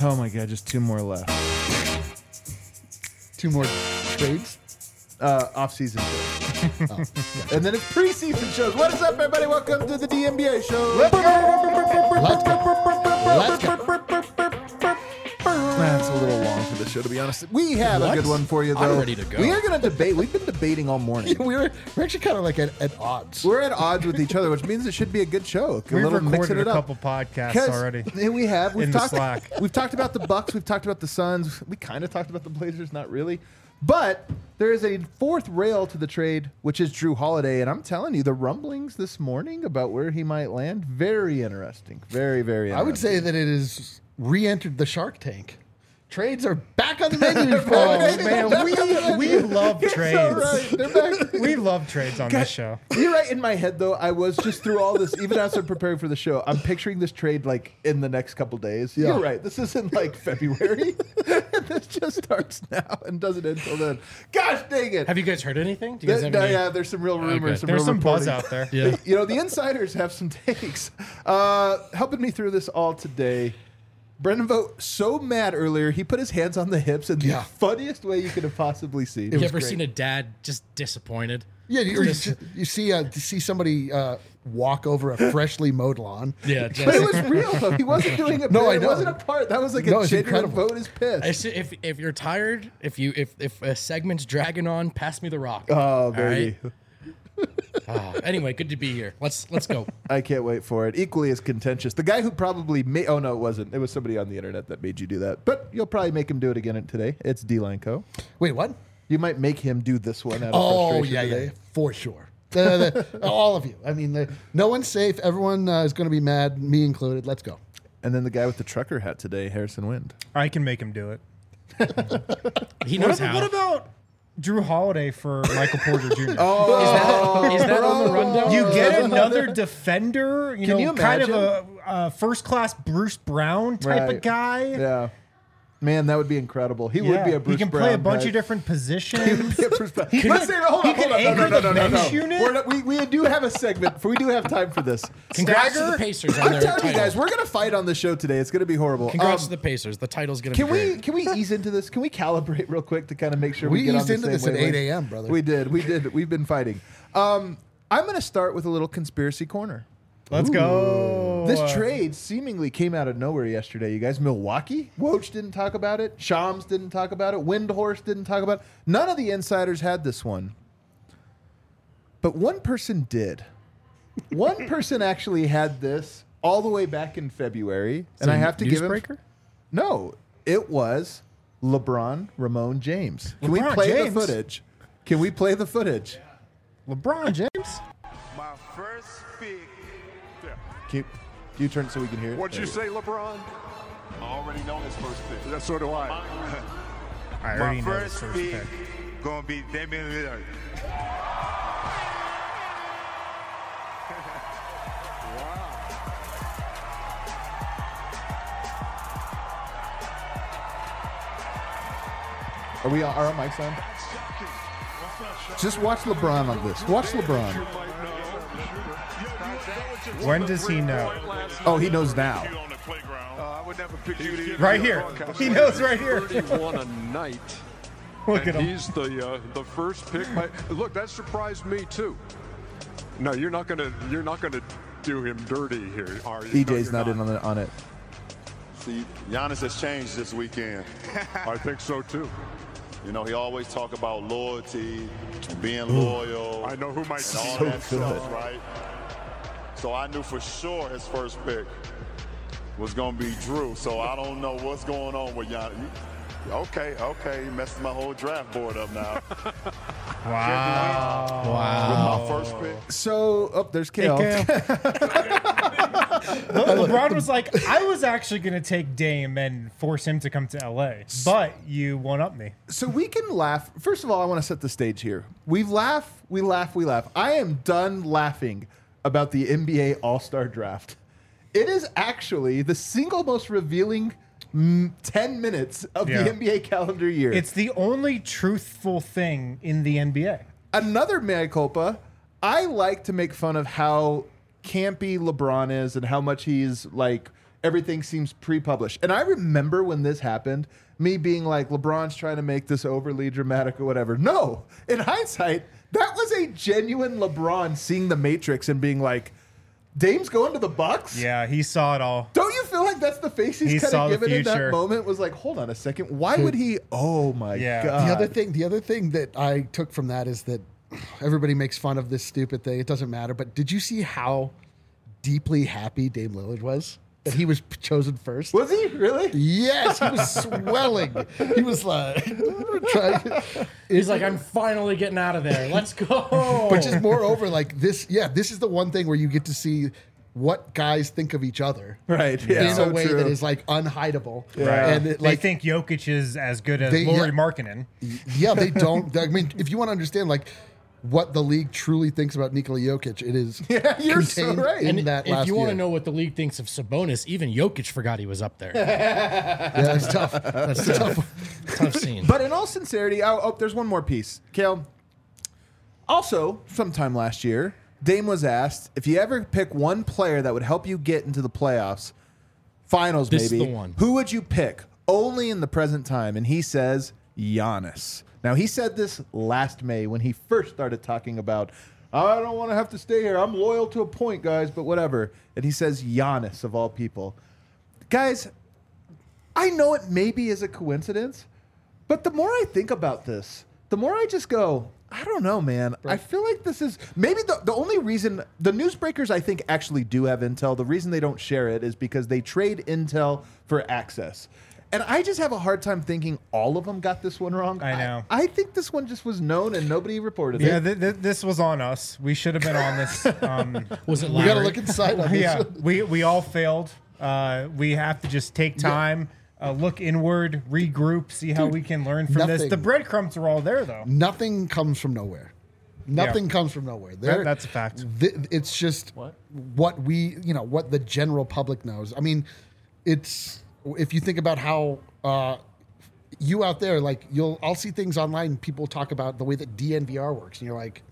Oh my God, just 2 more left. 2 more trades. Off-season shows. And then it's preseason shows. What is up, everybody? Welcome to the DNBA show. Let's go. That's a little long for the show, to be honest. We have a good one for you, though. I'm ready to go. We are going to debate. We've been debating all morning. We're actually kind of like at odds. We're at odds with each other, which means it should be a good show. We've mixing recorded it a up. couple podcasts 'Cause- already. Yeah, we have. In the Slack. We've talked about the Bucks. We've talked about the Suns. We kind of talked about the Blazers, not really. But there is a 4th rail to the trade, which is Drew Holiday. And I'm telling you, the rumblings this morning about where he might land, very interesting. Very, very interesting. I would say that it has re-entered the Shark Tank. Trades are back on the menu. Man, we love trades. So right. They're back. We love trades on this show. You're right. In my head, though, I was just through all this, even as I'm preparing for the show, I'm picturing this trade like in the next couple days. Yeah. You're right. This isn't like February. And this just starts now and doesn't end until then. Gosh dang it. Have you guys heard anything? Do you guys have any? Yeah, there's some real rumors. good. Some real There's some buzz reporting. out there. Yeah. You know, the insiders have some takes. Helping me through this all today. Brendan Vogt, so mad earlier, he put his hands on the hips in the Yeah. funniest way you could have possibly seen. You was ever great. seen a dad just disappointed? Yeah, you see somebody walk over a freshly mowed lawn. Yeah, But just, it was real, though. He wasn't doing it. No, I It know. wasn't a part. That was like No, a it's genuine incredible. vote is pissed. if you're tired, if a segment's dragging on, pass me the rock. Oh, All baby. right? Anyway, good to be here. Let's go. I can't wait for it. Equally as contentious. The guy who probably made... Oh, no, it wasn't. It was somebody on the internet that made you do that. But you'll probably make him do it again today. It's D-Line Co. Wait, what? You might make him do this one out of Oh, frustration yeah, today. yeah, for sure. All of you. I mean, no one's safe. Everyone is going to be mad, me included. Let's go. And then the guy with the trucker hat today, Harrison Wind. I can make him do it. He knows how. What about Drew Holiday for Michael Porter Jr.? Is that on the rundown? You get another defender, Can you kind of imagine? a first-class Bruce Brown type Right. of guy. Yeah. Man, that would be incredible. He would be a Bruce He can Brown play a bunch type. of different He would positions. be a Bruce Brown. He can- Let's say, hold he on, can hold on. anchor the bench unit. We're not- we do have a segment. We do have time for this. Congrats to Stagger. the Pacers on I'm their telling you title. guys, we're going to fight on the show today. It's going to be horrible. Congrats to the Pacers. The title's gonna Can be we great. can we ease into this? Can we calibrate real quick to kind of make sure we We get on eased the into same this at wavelength? 8 a.m., brother. We did. We've been fighting. I'm going to start with a little conspiracy corner. Let's go. This trade seemingly came out of nowhere yesterday, you guys. Milwaukee? Woj didn't talk about it. Shams didn't talk about it. Windhorst didn't talk about it. None of the insiders had this one. But one person did. One person actually had this all the way back in February. And I have to give him... Newsbreaker? No, it was LeBron Ramon James. Can we LeBron play James? the footage? Can we play the footage? LeBron James. My first pick. Can you turn it so we can hear it? What'd There you we go. say, LeBron? I already know his first pick. That's so do I. I My already know his first first pick pick. gonna be Damian Lillard. Are our mics on? Just watch LeBron on this. Watch LeBron. When does he know? Oh, he knows now. On the playground. I would never pick you to Right here. He knows right here. 31 a night. Look And at him. he's the first pick. Look, that surprised me too. No, you're not gonna do him dirty here, are you? EJ's No, not you're in on it. See, Giannis has changed this weekend. I think so too. You know, he always talk about loyalty, being loyal. I know who my and all So that good. stuff, right? So I knew for sure his first pick was going to be Drew. So I don't know what's going on with Giannis. Okay, you messed my whole draft board up now. Wow. With my first pick. So, there's Kale. LeBron was like, I was actually going to take Dame and force him to come to LA, but you one up me. So we can laugh. First of all, I want to set the stage here. We laugh. I am done laughing about the NBA All-Star Draft. It is actually the single most revealing 10 minutes of Yeah. the NBA calendar year. It's the only truthful thing in the NBA. Another mea culpa. I like to make fun of how campy LeBron is and how much he's like everything seems pre-published. And I remember when this happened, me being like, LeBron's trying to make this overly dramatic or whatever. No, in hindsight, that was a genuine LeBron seeing the Matrix and being like, Dame's going to the Bucks? Yeah, he saw it all. Don't you feel like that's the face he's He kind saw of the given in that future. moment? Was like, hold on a second. Why would he? Oh my Yeah. God. The other thing that I took from that is that everybody makes fun of this stupid thing. It doesn't matter. But did you see how deeply happy Dame Lillard was that he was chosen first? Was he really? Yes, he was swelling. He was like, He's like, I'm finally getting out of there. Let's go. but just moreover, like this. Yeah, this is the one thing where you get to see what guys think of each other, Right. Yeah. in So a way true. that is like unhideable. Right. And it, They like, think Jokic is as good as They- Lauri yeah. Markkanen. yeah, they don't. I mean, if you want to understand, like, what the league truly thinks about Nikola Jokic, it is Yeah, you're so contained right. in And that if last you want to year. know what the league thinks of Sabonis, even Jokic forgot he was up there. Yeah, it's tough. That's tough scene. But in all sincerity, there's one more piece. Kale, also, sometime last year, Dame was asked, if you ever pick one player that would help you get into the playoffs, finals This is maybe, the one. who would you pick? Only in the present time. And he says, Giannis. Now, he said this last May when he first started talking about, I don't want to have to stay here. I'm loyal to a point, guys, but whatever. And he says Giannis, of all people. Guys, I know it maybe is a coincidence, but the more I think about this, the more I just go, I don't know, man. I feel like this is maybe the only reason the newsbreakers, I think, actually do have intel. The reason they don't share it is because they trade intel for access. And I just have a hard time thinking all of them got this one wrong. I know. I think this one just was known and nobody reported Yeah, it. this was on us. We should have been on this. Was it We got to Lowry? look inside on this. Yeah, we all failed. We have to just take time, look inward, regroup, see how we can learn from this. nothing- The breadcrumbs are all there, though. Nothing comes from nowhere. Nothing comes from nowhere. That's a fact. It's just what we, what the general public knows. I mean, if you think about how you out there, like I'll see things online. People talk about the way that DNVR works, and you're like,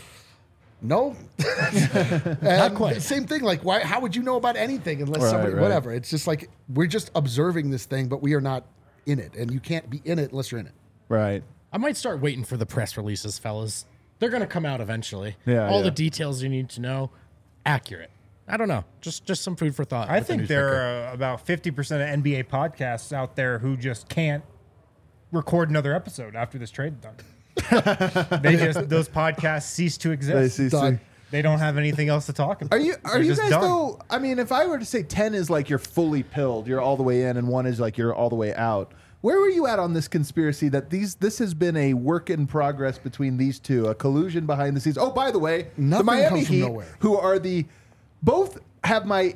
no, not quite. Same thing. Like, why? How would you know about anything unless Right, somebody, right. whatever? It's just like we're just observing this thing, but we are not in it, and you can't be in it unless you're in it. Right. I might start waiting for the press releases, fellas. They're going to come out eventually. Yeah, All yeah. the details you need to know, accurate. I don't know. Just some food for thought. I with the think newspaper. there are about 50% of NBA podcasts out there who just can't record another episode after this trade is done. Those podcasts cease to exist. Done. They don't have anything else to talk about. Are you They're you just guys done. though? I mean, if I were to say 10 is like you're fully pilled, you're all the way in, and 1 is like you're all the way out. Where were you at on this conspiracy that this has been a work in progress between these two, a collusion behind the scenes? Oh, by the way, the Nothing Miami comes from Heat, nowhere. who are both have my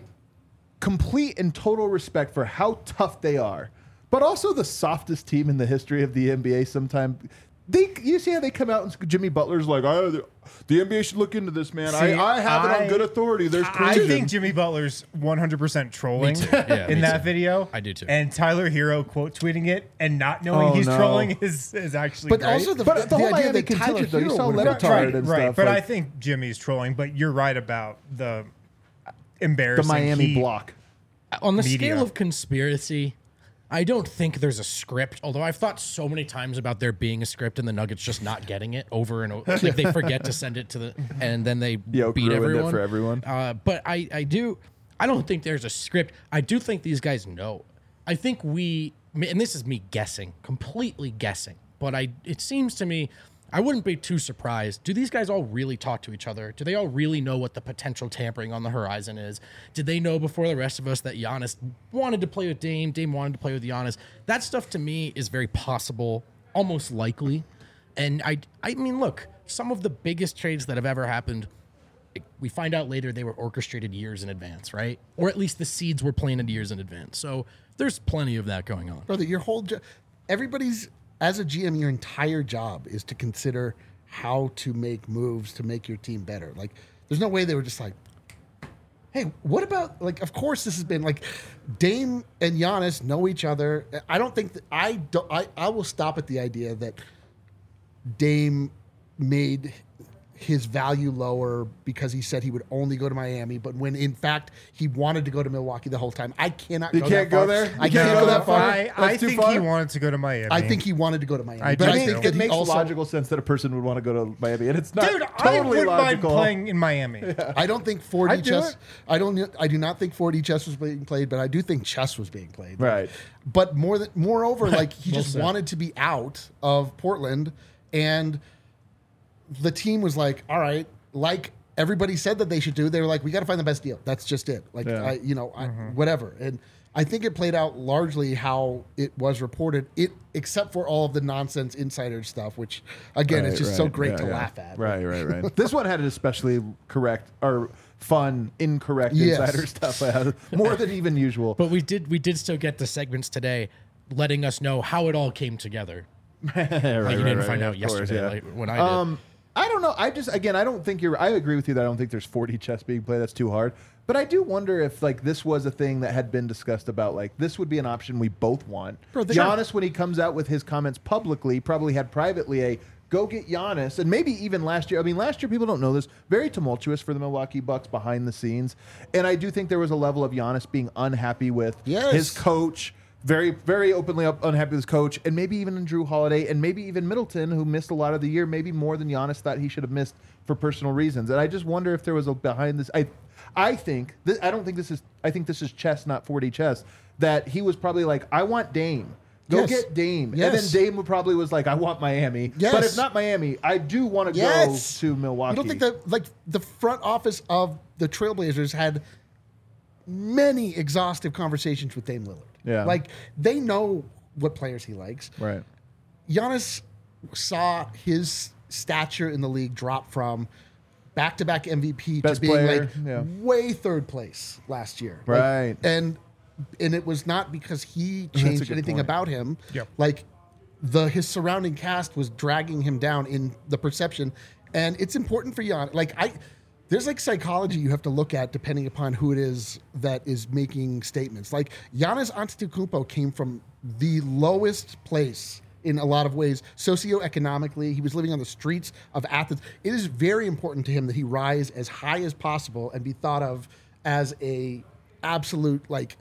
complete and total respect for how tough they are, but also the softest team in the history of the NBA. Sometimes you see how they come out and Jimmy Butler's like, the NBA should look into this, man. See, I have it on good authority. There's I collusion. think Jimmy Butler's 100% trolling Yeah, in me that too. video. I do too. And Tyler Hero quote tweeting it and not knowing Oh, he's no. trolling is actually But great. also the But the whole idea Miami that Tyler contingent, though, you Hero saw would've- Levitard right, and right. stuff, But like- I think Jimmy's trolling. But you're right about the embarrassing the Miami Heat. block. On the media. scale of conspiracy, I don't think there's a script. Although I've thought so many times about there being a script and the Nuggets just not getting it over and over. Like they forget to send it to the, and then they Yoke beat ruined it everyone. for everyone. But I don't think there's a script. I do think these guys know. I think and this is me guessing, completely guessing. But it seems to me, I wouldn't be too surprised. Do these guys all really talk to each other? Do they all really know what the potential tampering on the horizon is? Did they know before the rest of us that Giannis wanted to play with Dame? Dame wanted to play with Giannis? That stuff to me is very possible, almost likely. And I mean, look, some of the biggest trades that have ever happened, we find out later they were orchestrated years in advance, right? Or at least the seeds were planted years in advance. So there's plenty of that going on. brother, your whole everybody's, as a GM, your entire job is to consider how to make moves to make your team better. Like, there's no way they were just like, hey, what about, like, of course this has been like Dame and Giannis know each other. I don't think that I will stop at the idea that Dame made his value lower because he said he would only go to Miami, but when in fact he wanted to go to Milwaukee the whole time. I cannot. You can't go there? I can't go that far. I think he wanted to go to Miami. I think he wanted to go to Miami. I but do I too. think that It he makes also, logical sense that a person would want to go to Miami, and it's not Dude, I totally wouldn't mind logical. playing in Miami. I don't think 4D I'd do chess. it. I do not think 4D chess was being played, but I do think chess was being played. Right. But moreover, like he Well just said. wanted to be out of Portland, and the team was like, "All right," like everybody said that they should do. They were like, "We got to find the best deal. That's just it." Like, Yeah. whatever. And I think it played out largely how it was reported. Except for all of the nonsense insider stuff, which again, it's just so great to laugh at. Right. This one had an especially correct or fun, incorrect Yes. insider stuff, more than even usual. But we did still get the segments today letting us know how it all came together. Like you didn't find out yesterday like when I did. I don't know. I don't think I agree with you that I don't think there's 4D chess being played. That's too hard. But I do wonder if like this was a thing that had been discussed about like this would be an option we both want. Bro, Giannis, when he comes out with his comments publicly, probably had privately a go get Giannis, and maybe even last year. I mean, last year people don't know this. Very tumultuous for the Milwaukee Bucks behind the scenes, and I do think there was a level of Giannis being unhappy with his coach. Very, very openly unhappy with his coach, and maybe even in Drew Holiday, and maybe even Middleton, who missed a lot of the year, maybe more than Giannis thought he should have missed for personal reasons. And I just wonder if there was a behind this. I think this is chess, not 4D chess. That he was probably like, I want Dame. Go get Dame. Yes. And then Dame probably was like, I want Miami. Yes. But if not Miami, I do want to go to Milwaukee. You don't think that like the front office of the Trailblazers had many exhaustive conversations with Dame Lillard? Yeah. Like they know what players he likes. Right. Giannis saw his stature in the league drop from back-to-back MVP Best to being player, like yeah. way third place last year. Right. Like, and it was not because he a changed good anything point. about him. Yep. Like his surrounding cast was dragging him down in the perception. And it's important for Giannis. There's like psychology you have to look at depending upon who it is that is making statements. Like Giannis Antetokounmpo came from the lowest place in a lot of ways, socioeconomically. He was living on the streets of Athens. It is very important to him that he rise as high as possible and be thought of as a absolute like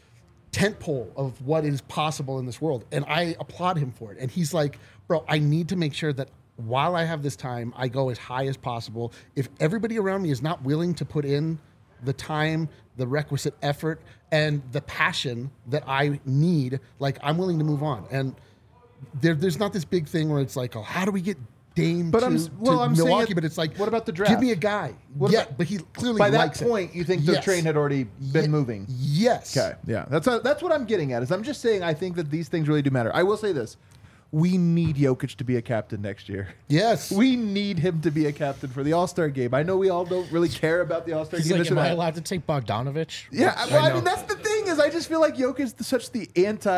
tent pole of what is possible in this world. And I applaud him for it. And he's like, bro, I need to make sure that while I have this time, I go as high as possible. If everybody around me is not willing to put in the time, the requisite effort, and the passion that I need, like I'm willing to move on. And there's not this big thing where it's like, oh, how do we get Dame But to I'm saying Milwaukee? it- But it's like, what about the draft? Give me a guy. What Yeah, about- but he clearly By that likes it. point, you think the Yes. train had already been moving. Yes. Okay, yeah, that's what I'm getting at. Is I'm just saying I think that these things really do matter. I will say this: we need Jokic to be a captain next year. Yes. We need him to be a captain for the All-Star game. I know we all don't really care about the All-Star He's game. like, this am and I that. allowed to take Bogdanovich? Yeah, well, I mean that's the thing is I just feel like Jokic is such the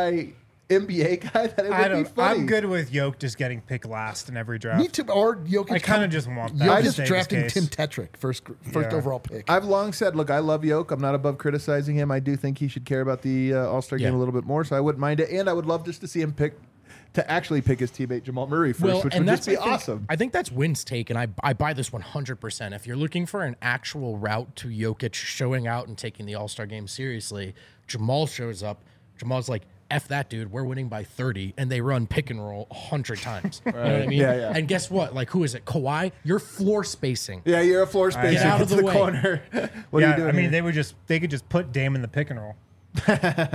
anti-NBA guy that it would be funny. I'm good with Yoke just getting picked last in every draft. Me too. Or Jokic. I kind of just want that. Jokic to stay drafting his Tim case. Tetrick, first Yeah. overall pick. I've long said, look, I love Yoke. I'm not above criticizing him. I do think he should care about the All-Star game Yeah. a little bit more, so I wouldn't mind it. And I would love just to see him actually pick his teammate Jamal Murray first, which would just be awesome. I think that's Wynn's take, and I buy this 100%. If you're looking for an actual route to Jokic showing out and taking the All-Star game seriously, Jamal shows up. Jamal's like, F that, dude. We're winning by 30. And they run pick and roll 100 times. You know what I mean? Yeah, yeah. And guess what? Like, who is it? Kawhi? You're floor spacing. Yeah, you're a floor spacer. Get out of to the the way. corner. What are Yeah, you doing? I mean, here? they could just put Dame in the pick and roll. Are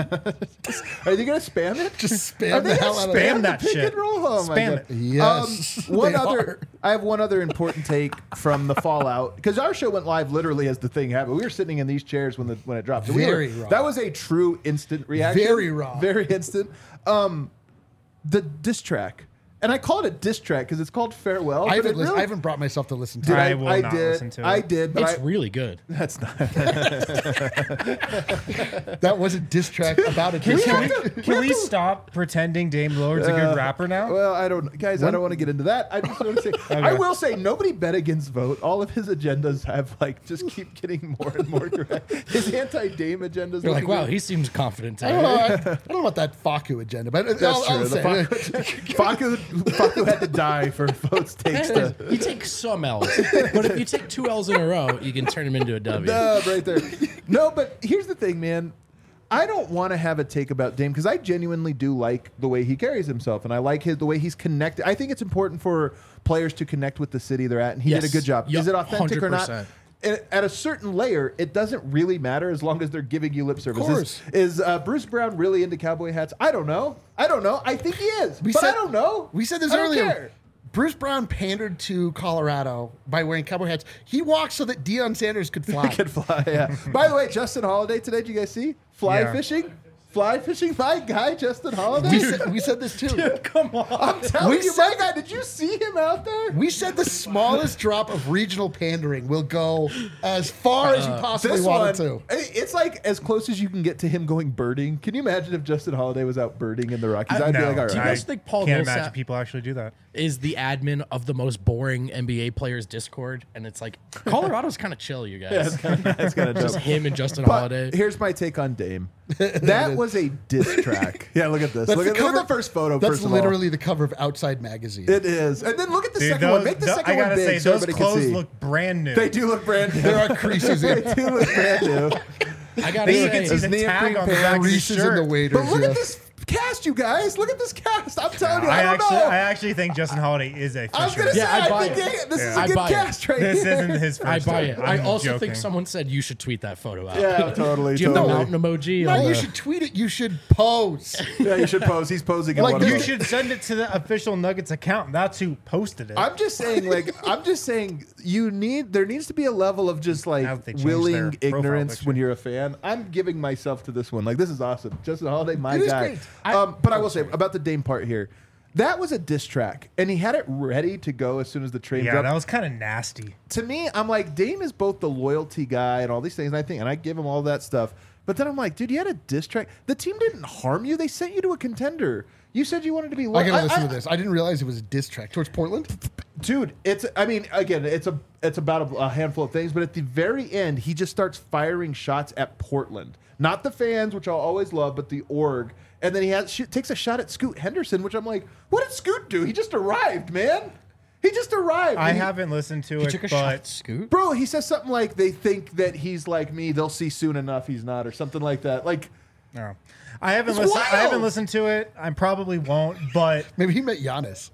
they going to spam it? Just Are spam they the gonna hell out of spam it. that pick shit. and roll? Oh my Spam God. it. Yes, One they other. are. I have one other important take from the fallout because our show went live literally as the thing happened. We were sitting in these chairs when it dropped. So Very raw. That was a true instant reaction. Very raw. Very instant. The diss track, and I call it a diss track because it's called Farewell. I but haven't, it really- I haven't brought myself to listen to Did it. I, I will I not did. listen to it. I did, but It's really good. that's not. That was a diss track about a diss track. Can we stop pretending Dame Lillard's a good rapper now? Well, I don't, guys. I don't want to get into that. I just want to say, I will say, nobody bet against Vote. All of his agendas have just keep getting more and more correct. His anti-Dame agendas. You're like, looking wow, good. he seems confident. I don't know about that Faku agenda, but That's I'll true. say. Faku, Facu had to die for Votes takes to You take some L's, but if you take 2 L's in a row, you can turn them into a W. right there. No, but here's the thing, man. I don't want to have a take about Dame because I genuinely do like the way he carries himself, and I like the way he's connected. I think it's important for players to connect with the city they're at, and he did a good job. Yep, Is it authentic or not? 100%. At a certain layer, it doesn't really matter as long as they're giving you lip service. Of course. Is Bruce Brown really into cowboy hats? I don't know. I think he is, I don't know. We said this I don't earlier. care. Bruce Brown pandered to Colorado by wearing cowboy hats. He walked so that Deion Sanders could fly. Could fly, yeah. By the way, Justin Holiday today, did you guys see? Fly fishing, my guy, Justin Holiday. We said this too. Come on. I'm telling you, my guy, did you see him out there? We said the smallest drop of regional pandering will go as far as you possibly This want one, it to. it's like as close as you can get to him going birding. Can you imagine if Justin Holiday was out birding in the Rockies? I'd be No. like, all Do you right. guys think Paul Can't Millsap imagine people actually do that. is the admin of the most boring NBA players Discord? And it's like, Colorado's kind of chill, you guys. That's kind of Just dope. him and Justin But Holiday. here's my take on Dame. That was a diss track. Yeah, look at this. That's Look at the first photo. That's first of all. literally the cover of Outside Magazine. It is. And then look at the Dude, second one. Make the second I one gotta big say, so those everybody can clothes see. look brand new. They do look brand new. There are creases in They do look brand new. I gotta You can see say, the neoprene tag on the back of the creases in shirt. the waders. But look yeah. at this cast, you guys. Look at this cast. I'm telling you, I don't I know. actually think Justin Holiday is a fisher. I was going to say, Yeah, I buy I think it. this is I a good buy it. cast right This here. isn't his first I buy it. time. I I'm also joking. think someone said you should tweet that photo out. Yeah, totally. Do you have the totally. mountain emoji? No, on you the- should tweet it. You should pose. Yeah, you should pose. He's posing. in Like, one of You them. should send it to the official Nuggets account. That's who posted it. I'm just saying, there needs to be a level of just Now that they like changed willing their profile ignorance picture. when you're a fan. I'm giving myself to this one. Like, this is awesome. Justin Holiday, my It is guy. great. But I will say about the Dame part here. That was a diss track, and he had it ready to go as soon as the train yeah, dropped. that was kind of nasty. To me, I'm like, Dame is both the loyalty guy and all these things, and I give him all that stuff. But then I'm like, dude, you had a diss track. The team didn't harm you. They sent you to a contender. You said you wanted to be I loyal. gotta listen to this. I didn't realize it was a diss track towards Portland. Dude, it's about a handful of things, but at the very end, he just starts firing shots at Portland. Not the fans, which I'll always love, but the org. And then he takes a shot at Scoot Henderson, which I'm like, what did Scoot do? He just arrived, man. He just arrived. I And haven't listened to He it, took a shot but at Scoot. Bro, he says something like they think that he's like me. They'll see soon enough he's not, or something like that. Like, no. I haven't It's listened. I haven't wild. listened to it. I probably won't, but Maybe he met Giannis.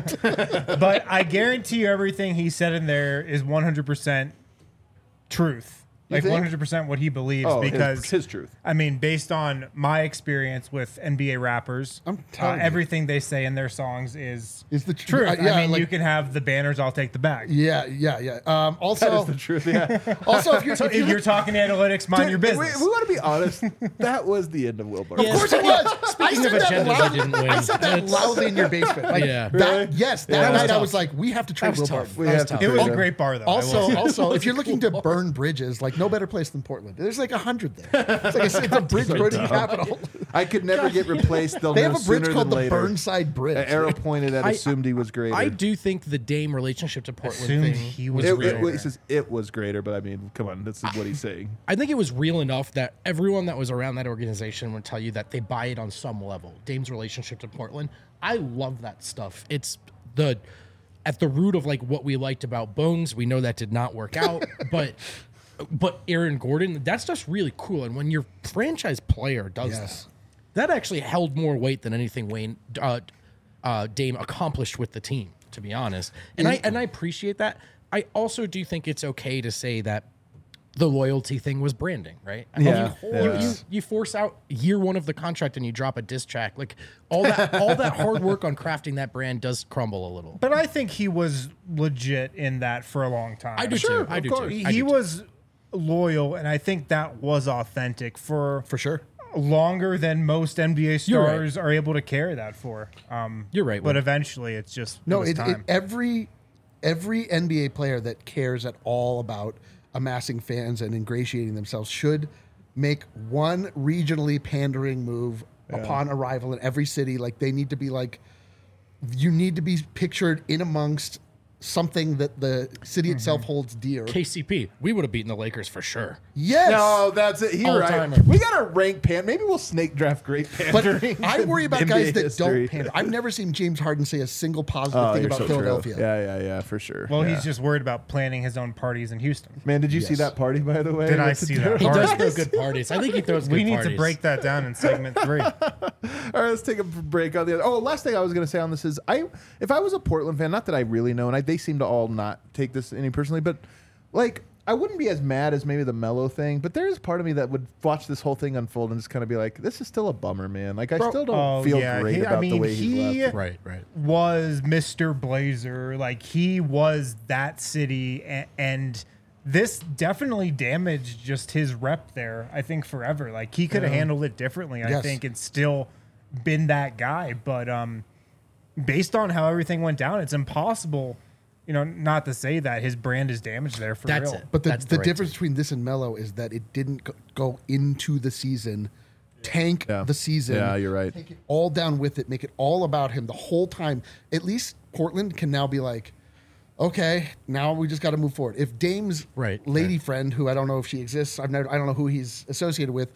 I guarantee you everything he said in there is 100% truth. Like think? 100% what he believes oh, because his truth. I mean, based on my experience with NBA rappers, I'm telling you. everything they say in their songs is the truth. truth. I mean, you can have the banners, I'll take the bag. Yeah. That Also, is the truth. Yeah. also, if you're, So if you're talking analytics, mind your Dude, business. We want to be honest. That was the end of Will Barton. Yeah. of course it was. Speaking of agendas, they didn't win. I said that It's- loudly in your basement. Like, Yeah. that, yes, that That was night I tough. was like, we have to trade That Will was Barton. tough. We That have was to tough. It was trade a him. great bar, though. I will say. Also, if you're looking to burn bridges, like no better place than Portland. There's like 100 there. It's a bridge burning capital. I could never get replaced. They'll They know have a bridge sooner called than the later. Burnside Bridge. An arrow pointed at assumed he was greater. I do think the Dame relationship to Portland Assumed thing he was was real. real. he says it was greater, but I mean, come on, this is what he's saying. I think it was real enough that everyone that was around that organization would tell you that they buy it on some level. Dame's relationship to Portland, I love that stuff. It's at the root of like what we liked about Bones. We know that did not work out, but Aaron Gordon, that's just really cool. And when your franchise player does Yes. that actually held more weight than anything Dame accomplished with the team, to be honest. And I appreciate that. I also do think it's okay to say that the loyalty thing was branding, right? I mean, Yeah. you force out year one of the contract and you drop a diss track. Like all that hard work on crafting that brand does crumble a little. But I think he was legit in that for a long time. I do too. I do too. He was loyal, and I think that was authentic for sure. longer than most NBA You're right. stars are able to carry that for. You're right, But Will. eventually, it's just No, it was time. every NBA player that cares at all about amassing fans and ingratiating themselves should make one regionally pandering move upon arrival in every city. Like they need to be like, you need to be pictured in amongst something that the city itself holds dear. KCP, we would have beaten the Lakers for sure. Yes. No, that's it. You're right. All-timer. We got to rank pan. Maybe we'll snake draft great But pandering. I worry about in guys NBA that history. don't pander. I've never seen James Harden say a single positive Oh, thing you're about so Philadelphia. true. Yeah, for sure. Well, Yeah. he's just worried about planning his own parties in Houston. Man, did you see Yes. that party, by the way? Did I What's it see do? that He party? does throw good parties. I think he throws good We need parties. to break that down in segment 3. All right, let's take a break on the other. Oh, last thing I was going to say on this is if I was a Portland fan, not that I really know, and they seem to all not take this any personally, but like I wouldn't be as mad as maybe the Melo thing, but there is part of me that would watch this whole thing unfold and just kind of be like, this is still a bummer, man. Like I still don't feel great about the way he's left. Right. Was Mr. Blazer. Like, he was that city, and this definitely damaged just his rep there, I think, forever. Like, he could have handled it differently, I Yes. think, and still been that guy. But based on how everything went down, it's impossible, not to say that his brand is damaged there for That's real. it. But That's the right difference take. between this and Melo is that it didn't go into the season, tank Yeah. the season. Yeah, you're right. Take it all down with it, make it all about him the whole time. At least Portland can now be like, okay, now we just got to move forward. If Dame's lady friend, who I don't know if she exists, I don't know who he's associated with,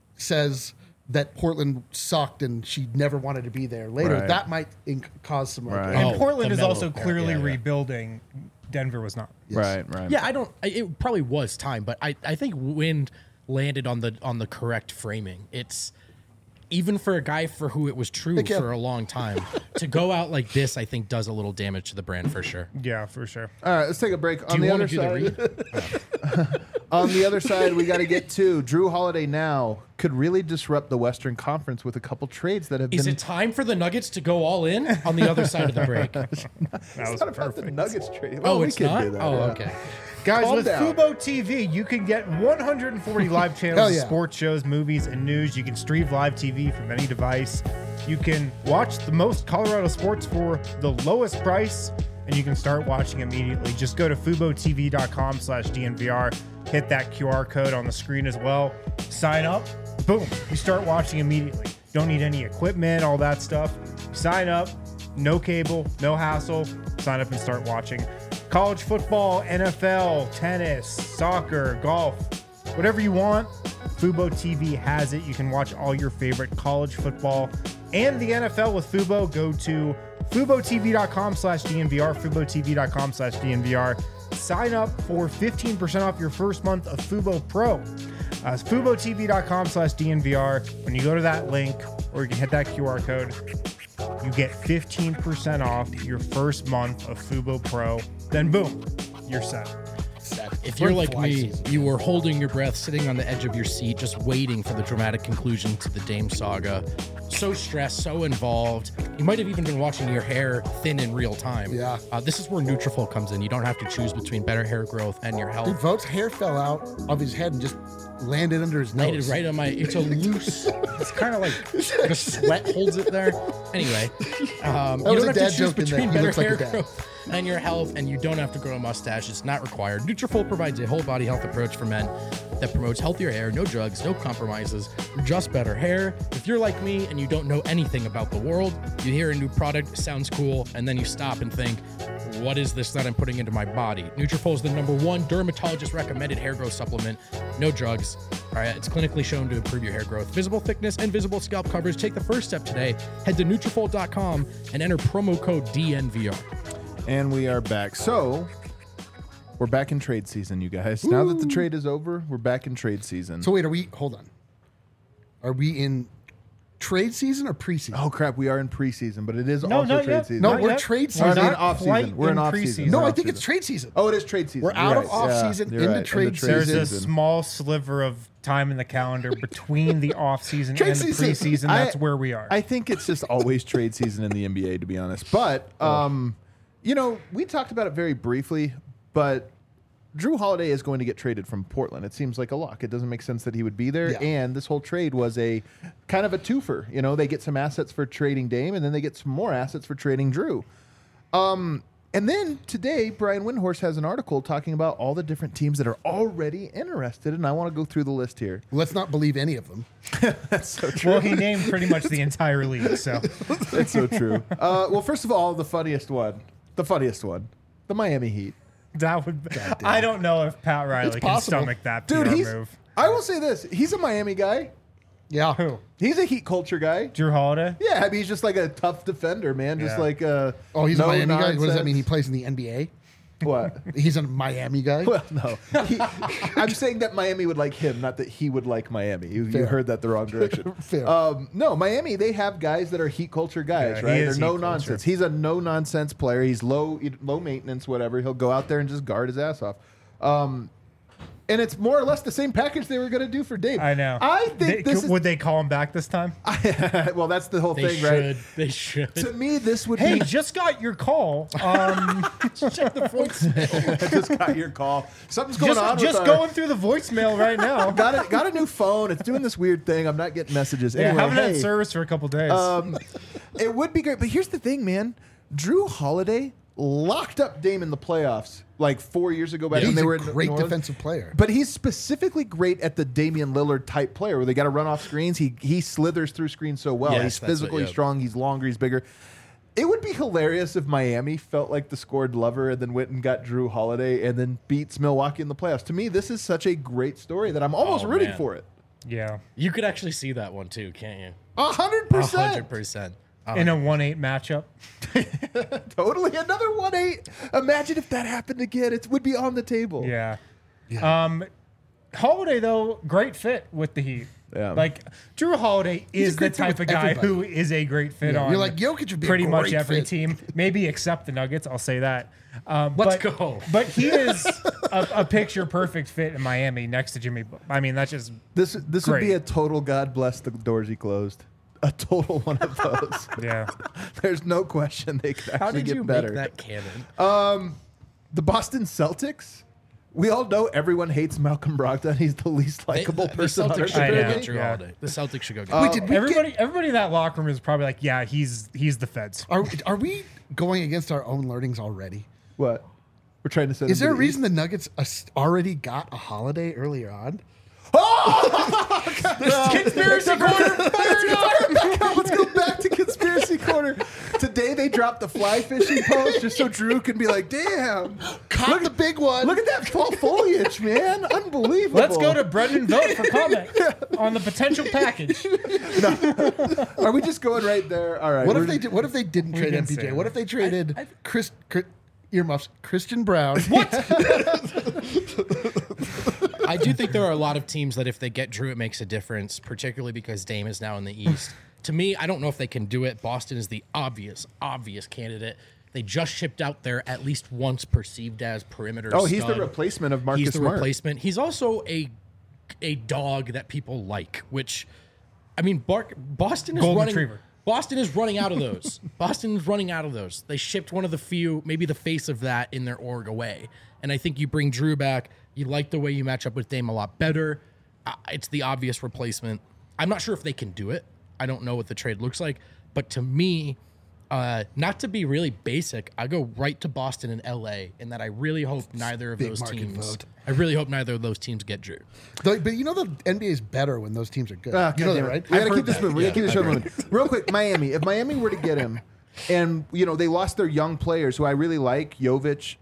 says that Portland sucked and she never wanted to be there later, Right. that might cause some like, Right. And Oh, Portland the is Melo also pair. clearly Yeah, yeah. rebuilding. Denver was not. Right. Yeah, it probably was time, but I think Wind landed on the correct framing. It's even for a guy for who it was true Thank you. for a long time to go out like this, I think does a little damage to the brand for sure. Yeah, for sure. All right, let's take a break. Do On you the want other to do the side, read? on the other side, we got to get to Drew Holiday now could really disrupt the Western Conference with a couple trades that have Is been. it time for the Nuggets to go all in on the other side of the break? That was It's not about the perfect. Nuggets trade. Oh, we it's could not? do that, Oh, yeah. okay. Guys, Calm with down. Fubo TV, you can get 140 live channels Hell of yeah. sports shows, movies, and news. You can stream live TV from any device. You can watch the most Colorado sports for the lowest price, and you can start watching immediately. Just go to FuboTV.com/DNVR, hit that QR code on the screen as well. Sign up, boom, you start watching immediately. Don't need any equipment, all that stuff. Sign up, no cable, no hassle. Sign up and start watching. College football, NFL, tennis, soccer, golf, whatever you want, Fubo TV has it. You can watch all your favorite college football and the NFL with Fubo. Go to FuboTV.com/DNVR, FuboTV.com/DNVR. Sign up for 15% off your first month of Fubo Pro. FuboTV.com/DNVR. When you go to that link, or you can hit that QR code, you get 15% off your first month of Fubo Pro. Then boom, you're set. If you're like Fly me, season. you were holding your breath, sitting on the edge of your seat, just waiting for the dramatic conclusion to the Dame saga. So stressed, so involved. You might have even been watching your hair thin in real time. Yeah. This is where Nutrafol comes in. You don't have to choose between better hair growth and your Dude, health. Vogt's hair fell out of his head and just landed under his Landed nose. right on my. It's a loose. It's kind of like the sweat holds it there. Anyway, you was don't a have dad to choose joke in between that he better looks like hair a dad. growth and your health, and you don't have to grow a mustache. It's not required. Nutrafol provides a whole body health approach for men that promotes healthier hair, no drugs, no compromises, just better hair. If you're like me and you don't know anything about the world, you hear a new product, sounds cool, and then you stop and think, what is this that I'm putting into my body? Nutrafol is the #1 dermatologist recommended hair growth supplement. No drugs. All right, it's clinically shown to improve your hair growth, visible thickness, and visible scalp coverage. Take the first step today. Head to Nutrafol.com and enter promo code DNVR. And we are back. So we're back in trade season, you guys. Now that the trade is over, we're back in trade season. So wait, hold on. Are we in trade season or preseason? Oh crap, we are in preseason, but it is No, also not trade yet. season. No, Not we're yet. trade We're season. in not off quite season. We're in in off preseason. season. No, We're I off think it's season. trade season. Oh, it is trade season. We're out You're of right. off-season, You're into right. trade There's a season. small sliver of time in the calendar between the off season Trade and the season. preseason. That's where we are. I think it's just always trade season in the NBA, to be honest. But we talked about it very briefly, but Drew Holiday is going to get traded from Portland. It seems like a lock. It doesn't make sense that he would be there. Yeah. And this whole trade was a kind of a twofer. They get some assets for trading Dame, and then they get some more assets for trading Drew. And then today, Brian Windhorst has an article talking about all the different teams that are already interested, and I want to go through the list here. Let's not believe any of them. That's so true. well, he named pretty much the entire league. So That's so true. Well, first of all, the funniest one. The The Miami Heat. That would. I don't know if Pat Riley can possible. stomach that Dude, PR he's. move. I will say this: he's a Miami guy. Yeah. Who? He's a Heat culture guy. Drew Holiday. Yeah, I mean, he's just like a tough defender, man. Just Yeah. like Oh, he's a Miami guy. What does that nonsense. mean? He plays in the NBA. What? He's a Miami guy. Well, no. I'm saying that Miami would like him, not that he would like Miami. You Fair. heard that the wrong direction. Fair. No, Miami, they have guys that are Heat culture guys, Yeah, he right? is They're no Heat nonsense. culture. He's a no nonsense player. He's low maintenance, whatever. He'll go out there and just guard his ass off. And it's more or less the same package they were going to do for Dame. I know. I think this is. Would they call him back this time? Well, that's the whole They thing, should. right? They should. To me, this would Hey, be. just got your call. Check the voicemail. Just got your call. Something's going on. just with our- going through the voicemail right now. Got a new phone. It's doing this weird thing. I'm not getting messages. Yeah, Anyway, haven't had hey, service for a couple days. it would be great. But here's the thing, man. Drew Holiday locked up Dame in the playoffs like 4 years ago back when He's they a were in great New Orleans. defensive player. But he's specifically great at the Damian Lillard type player where they got to run off screens. He slithers through screens so well. Yes, He's that's physically what- yeah. strong. He's longer. He's bigger. It would be hilarious if Miami felt like the scored lover and then went and got Drew Holiday and then beats Milwaukee in the playoffs. To me, this is such a great story that I'm almost Oh, rooting man. for it. yeah. You could actually see that one too, can't you? 100%. 100%. In a 1-8 matchup. Totally. Another 1-8. Imagine if that happened again. It would be on the table. Yeah. Holiday, though, great fit with the Heat. Yeah. Like, Drew Holiday is a the great fit type with of guy everybody. who is a great fit Yeah, on you're like, Jokic would be a pretty much great every fit. team, maybe except the Nuggets. I'll say that. Let's go. But he is a picture perfect fit in Miami next to Jimmy. I mean, that's just This would Great. be a total God bless the doors he closed. A total one of those. yeah. There's no question they could How actually did get you better. make that canon? The Boston Celtics. We all know everyone hates Malcolm Brogdon. He's the least likable The person on Celtics earth. should I go know. get Drew Yeah. Holiday. The Celtics should go get. Wait, did we Everybody in that locker room is probably like, yeah, he's the feds. are we going against our own learnings already? What? We're trying to set Is him there a to the reason the Nuggets already got a Holiday earlier on? Conspiracy corner fired up. Let's go back to conspiracy corner. Today they dropped the fly fishing post just so Drew can be like, "Damn, Caught the big one. look at that fall foliage, man! Unbelievable." Let's go to Brendan Vogt for comment on the potential package. Are we just going right there? All right. What we're if they did, what if they didn't trade can say MPJ? that. What if they traded earmuffs Christian Brown? I do think there are a lot of teams that if they get Drew, it makes a difference, particularly because Dame is now in the East. To me, I don't know if they can do it. Boston is the obvious candidate. They just shipped out their at least once perceived as perimeter. Oh, he's the stud. replacement of Marcus He's the Smart. replacement. He's also a dog that people like, which, I mean, Boston is Golden running. retriever. Boston is running out of those. Boston is running out of those. They shipped one of the few, maybe the face of that in their org away. And I think you bring Drew back. You like the way you match up with Dame a lot better. It's the obvious replacement. I'm not sure if they can do it. I don't know what the trade looks like. But to me, not to be really basic, I go right to Boston and LA, and that I really hope neither of Big those market teams. vote. I really hope neither of those teams get Drew. But you know the NBA is better when those teams are good. God You know that, damn it. right? We gotta I've keep this heard moving. We that. gotta keep this show moving. Real quick, Miami. If Miami were to get him, and they lost their young players who I really like, Jovic.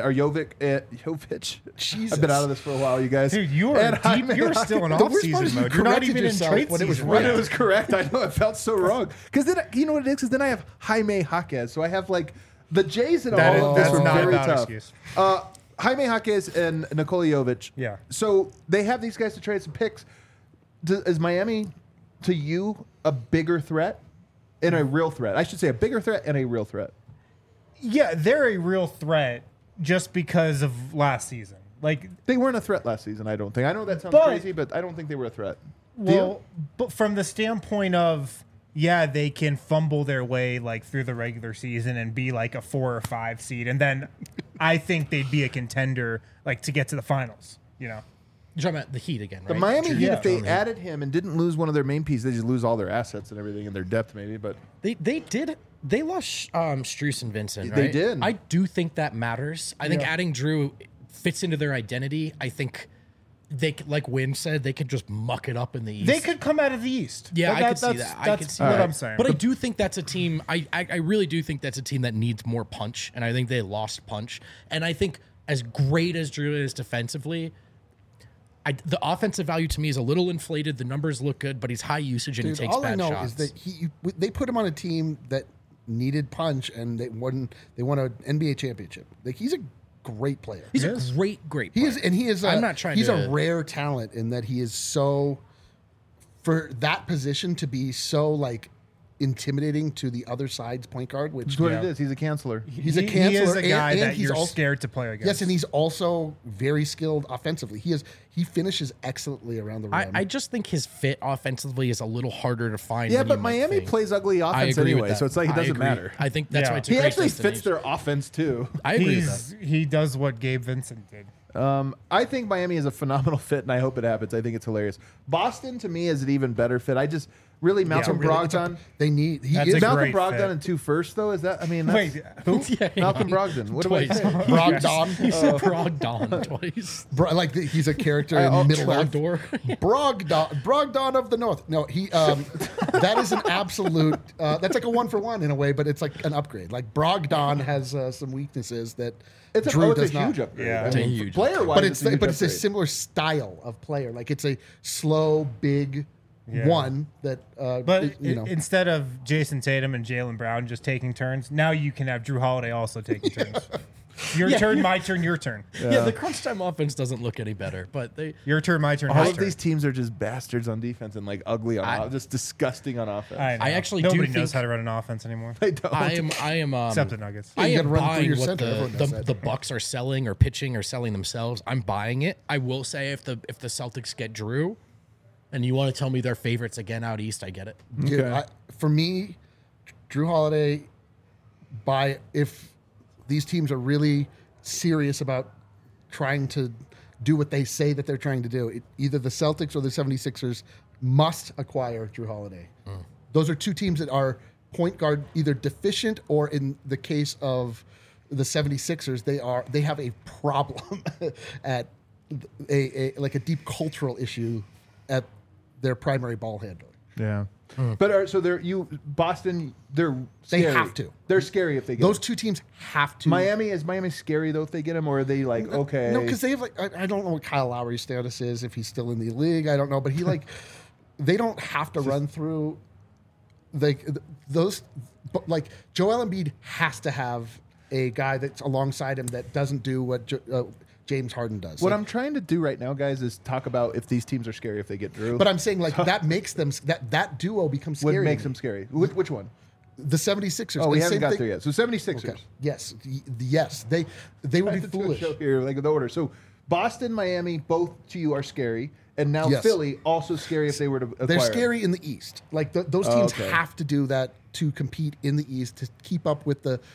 Jovic. Jesus. I've been out of this for a while, you guys. Dude, you are And deep. You're Jaime- still in The worst part off-season is you mode. You're not corrected even in yourself trade when it was season. When right. it was correct, I know it felt so wrong. Because then, you know what it is? Because then I have Jaime Jaquez. So I have like the Jays and all of this That's were not a very valid tough. excuse. Jaime Jaquez and Nikola Jovic. Yeah. So they have these guys to trade some picks. Is Miami, to you, a bigger threat and a real threat? I should say a bigger threat and a real threat. Yeah, they're a real threat just because of last season. Like, They weren't a threat last season, I don't think. I know that sounds But- crazy, but I don't think they were a threat. Do you? well, but from the standpoint of, yeah, they can fumble their way like through the regular season and be like a 4 or 5 seed, and then I think they'd be a contender like to get to the finals. You know, You're talking about the Heat again, right? The Miami Heat, Yeah. if they added him and didn't lose one of their main pieces, they just lose all their assets and everything and their depth, maybe. But They lost Strus and Vincent, right? They did. I do think that matters. I think adding Drew fits into their identity. I think like Wynn said, they could just muck it up in the East. They could come out of the East. Yeah, I could see that's, that. I That's could see what that. I'm saying. But I do think that's a team. I really do think that's a team that needs more punch, and I think they lost punch. And I think as great as Drew is defensively, the offensive value to me is a little inflated. The numbers look good, but he's high usage and Dude, he takes all I bad know shots. is that they put him on a team that needed punch, and they won an NBA championship. Like, he's a great player. He's a great player. He is. I'm not trying He's to. a rare talent in that he is so, for that position to be so like intimidating to the other side's point guard, which That's what it is. He's a canceller. he's a He canceller. is a guy and that he's you're also, scared to play against. Yes, and he's also very skilled offensively. He finishes excellently around the rim. I just think his fit offensively is a little harder to find. Yeah, than but you might Miami think. plays ugly I offense agree with anyway, that. so it's like it I doesn't agree. matter. I think that's Yeah. why it's a He great actually fits destination. their offense too. I agree with that. He does what Gabe Vincent did. I think Miami is a phenomenal fit, and I hope it happens. I think it's hilarious. Boston, to me, is an even better fit. I just really Malcolm Brogdon. They need. He That's is a Malcolm great Brogdon fit. and 2 firsts, though. Is that? I mean, that's, Wait, who? Yeah, Malcolm Brogdon. What do I Twice. say? Brogdon. He said Brogdon twice. He's a character in Middle Earth. Trogdor. Brogdon of the North. No, that is an absolute. That's like a 1-for-1 in a way, but it's like an upgrade. Like Brogdon has some weaknesses that It's Drew a does not. huge upgrade. Yeah. I It's a mean, huge player-wise, But it's a huge a upgrade. similar style of player. Like it's a slow, big Yeah. one that. But you know. instead of Jason Tatum and Jaylen Brown just taking turns, now you can have Drew Holiday also taking turns. Your turn, my turn, your turn. Yeah, the crunch time offense doesn't look any better, but they. Your turn, my turn, All his of turn. these teams are just bastards on defense and like ugly on just disgusting on offense. I know. I actually do Nobody think- knows how to run an offense anymore. They don't. I am. Except the Nuggets. I You am gotta run through buying your what center. Everyone does that. the Bucks are selling or pitching or selling themselves. I'm buying it. I will say if the Celtics get Drew, and you want to tell me they're favorites again out east, I get it. Dude, Okay. for me, Drew Holiday, if these teams are really serious about trying to do what they say that they're trying to do, either the Celtics or the 76ers must acquire Drew Holiday. Those are two teams that are point guard either deficient or, in the case of the 76ers, they have a problem at a deep cultural issue at their primary ball handler. Yeah. But so Boston, they're They scary. have to. They're scary if they get Those him. two teams have to. Is Miami scary though if they get him, or are they like okay? No, because they have I don't know what Kyle Lowry's status is, if he's still in the league. I don't know, but he they don't have to run through those. But like Joel Embiid has to have a guy that's alongside him that doesn't do what James Harden does. What Like, I'm trying to do right now, guys, is talk about if these teams are scary if they get Drew. but I'm saying like that makes them that duo becomes what scary. makes them scary? Which one? The 76ers. Oh, we And haven't same got thing- there yet. So 76ers. Okay. Yes. They would be To do a foolish. show here, like the order. So Boston, Miami, both to you are scary, and now Yes. Philly also scary if they were to acquire. They're him. scary in the East. Like those teams okay. have to do that to compete in the East to keep up with the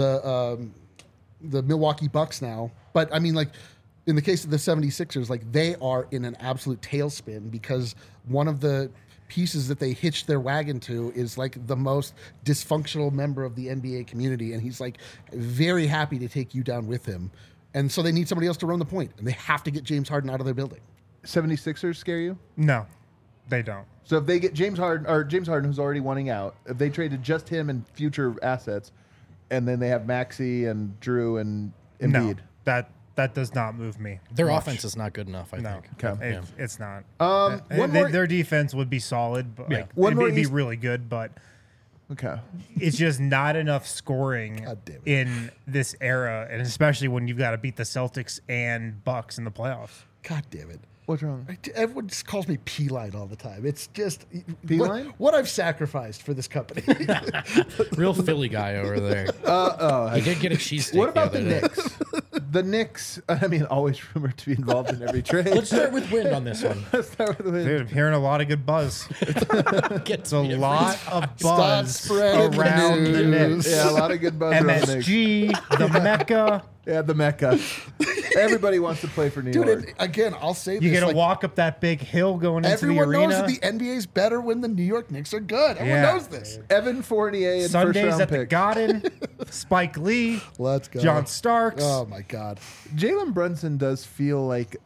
Milwaukee Bucks now. But I mean, like in the case of the 76ers, like they are in an absolute tailspin because one of the pieces that they hitched their wagon to is like the most dysfunctional member of the NBA community, and he's like very happy to take you down with him. And so they need somebody else to run the point, and they have to get James Harden out of their building. 76ers scare you? No, they don't. So if they get James Harden, who's already wanting out, if they traded just him and future assets, and then they have Maxey and Drew and Embiid. No, that does not move me. Their much. offense is not good enough. I No, think. Okay. it's not. One more- Their defense would be solid, but like, One more it'd be East- really good, but Okay. it's just not enough scoring God damn it. in this era, and especially when you've got to beat the Celtics and Bucks in the playoffs. God damn it. What's wrong? Everyone just calls me P-Line all the time. It's just P-Line? what I've sacrificed for this company. Real Philly guy over there. He did get a cheesesteak. What about the other day. Knicks? The Knicks, I mean, always rumored to be involved in every trade. Let's start with Wind on this one. Let's start with Dude, I'm hearing a lot of good buzz. Get It's a lot of Stop buzz spreading the around the news. Knicks. Yeah, a lot of good buzz around the Knicks. MSG, the Mecca. Yeah, the Mecca. Everybody wants to play for New Dude, York. and again, I'll say You this. get to like, walk up that big hill going into the everyone arena. knows that the NBA's better when the New York Knicks are good. Everyone Yeah. knows this. Evan Fournier and Sundays first round at the pick. Garden, Spike Lee, Let's go. John Starks. Oh, my God. Jalen Brunson does feel like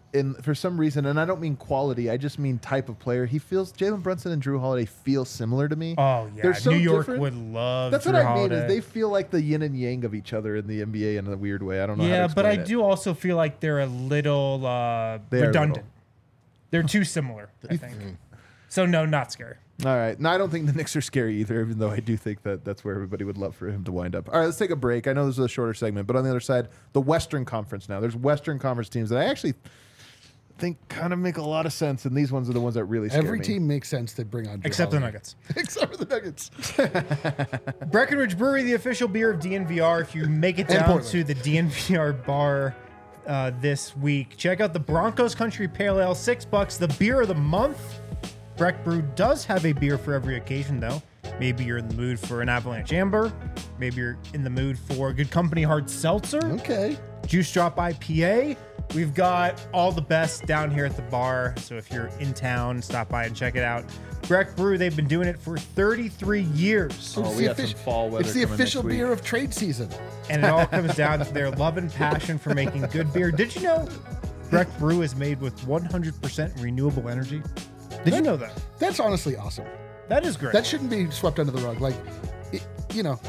for some reason, and I don't mean quality, I just mean type of player. Jalen Brunson and Drew Holiday feel similar to me. Oh yeah, They're so New York different. would love. That's Drew what I mean. Holiday. Is they feel like the yin and yang of each other in the NBA in a weird way. I don't know. how to Yeah, but I explain it. do also feel like they're a little They are redundant. little. They're too similar, I think. So no, not scary. All right. No, I don't think the Knicks are scary either, even though I do think that that's where everybody would love for him to wind up. All right, let's take a break. I know this is a shorter segment, but on the other side, the Western Conference now. There's Western Conference teams that I actually think kind of make a lot of sense, and these ones are the ones that really scare Every me. team makes sense to bring on Drew Except the Holiday. Nuggets. Except for the Nuggets. Breckenridge Brewery, the official beer of DNVR. If you make it And down Portland. to the DNVR bar this week, check out the Broncos Country Pale Ale, $6. The beer of the month. Breck Brew does have a beer for every occasion, though. Maybe you're in the mood for an Avalanche Amber. Maybe you're in the mood for Good Company Hard Seltzer. Okay. Juice Drop IPA. We've got all the best down here at the bar. So if you're in town, stop by and check it out. Breck Brew, they've been doing it for 33 years. Oh, we got some fall weather It's the coming official next week. beer of trade season. And it all comes down to their love and passion for making good beer. Did you know Breck Brew is made with 100% renewable energy? Did you know that? That's honestly awesome. That is great. That shouldn't be swept under the rug. Like, you know,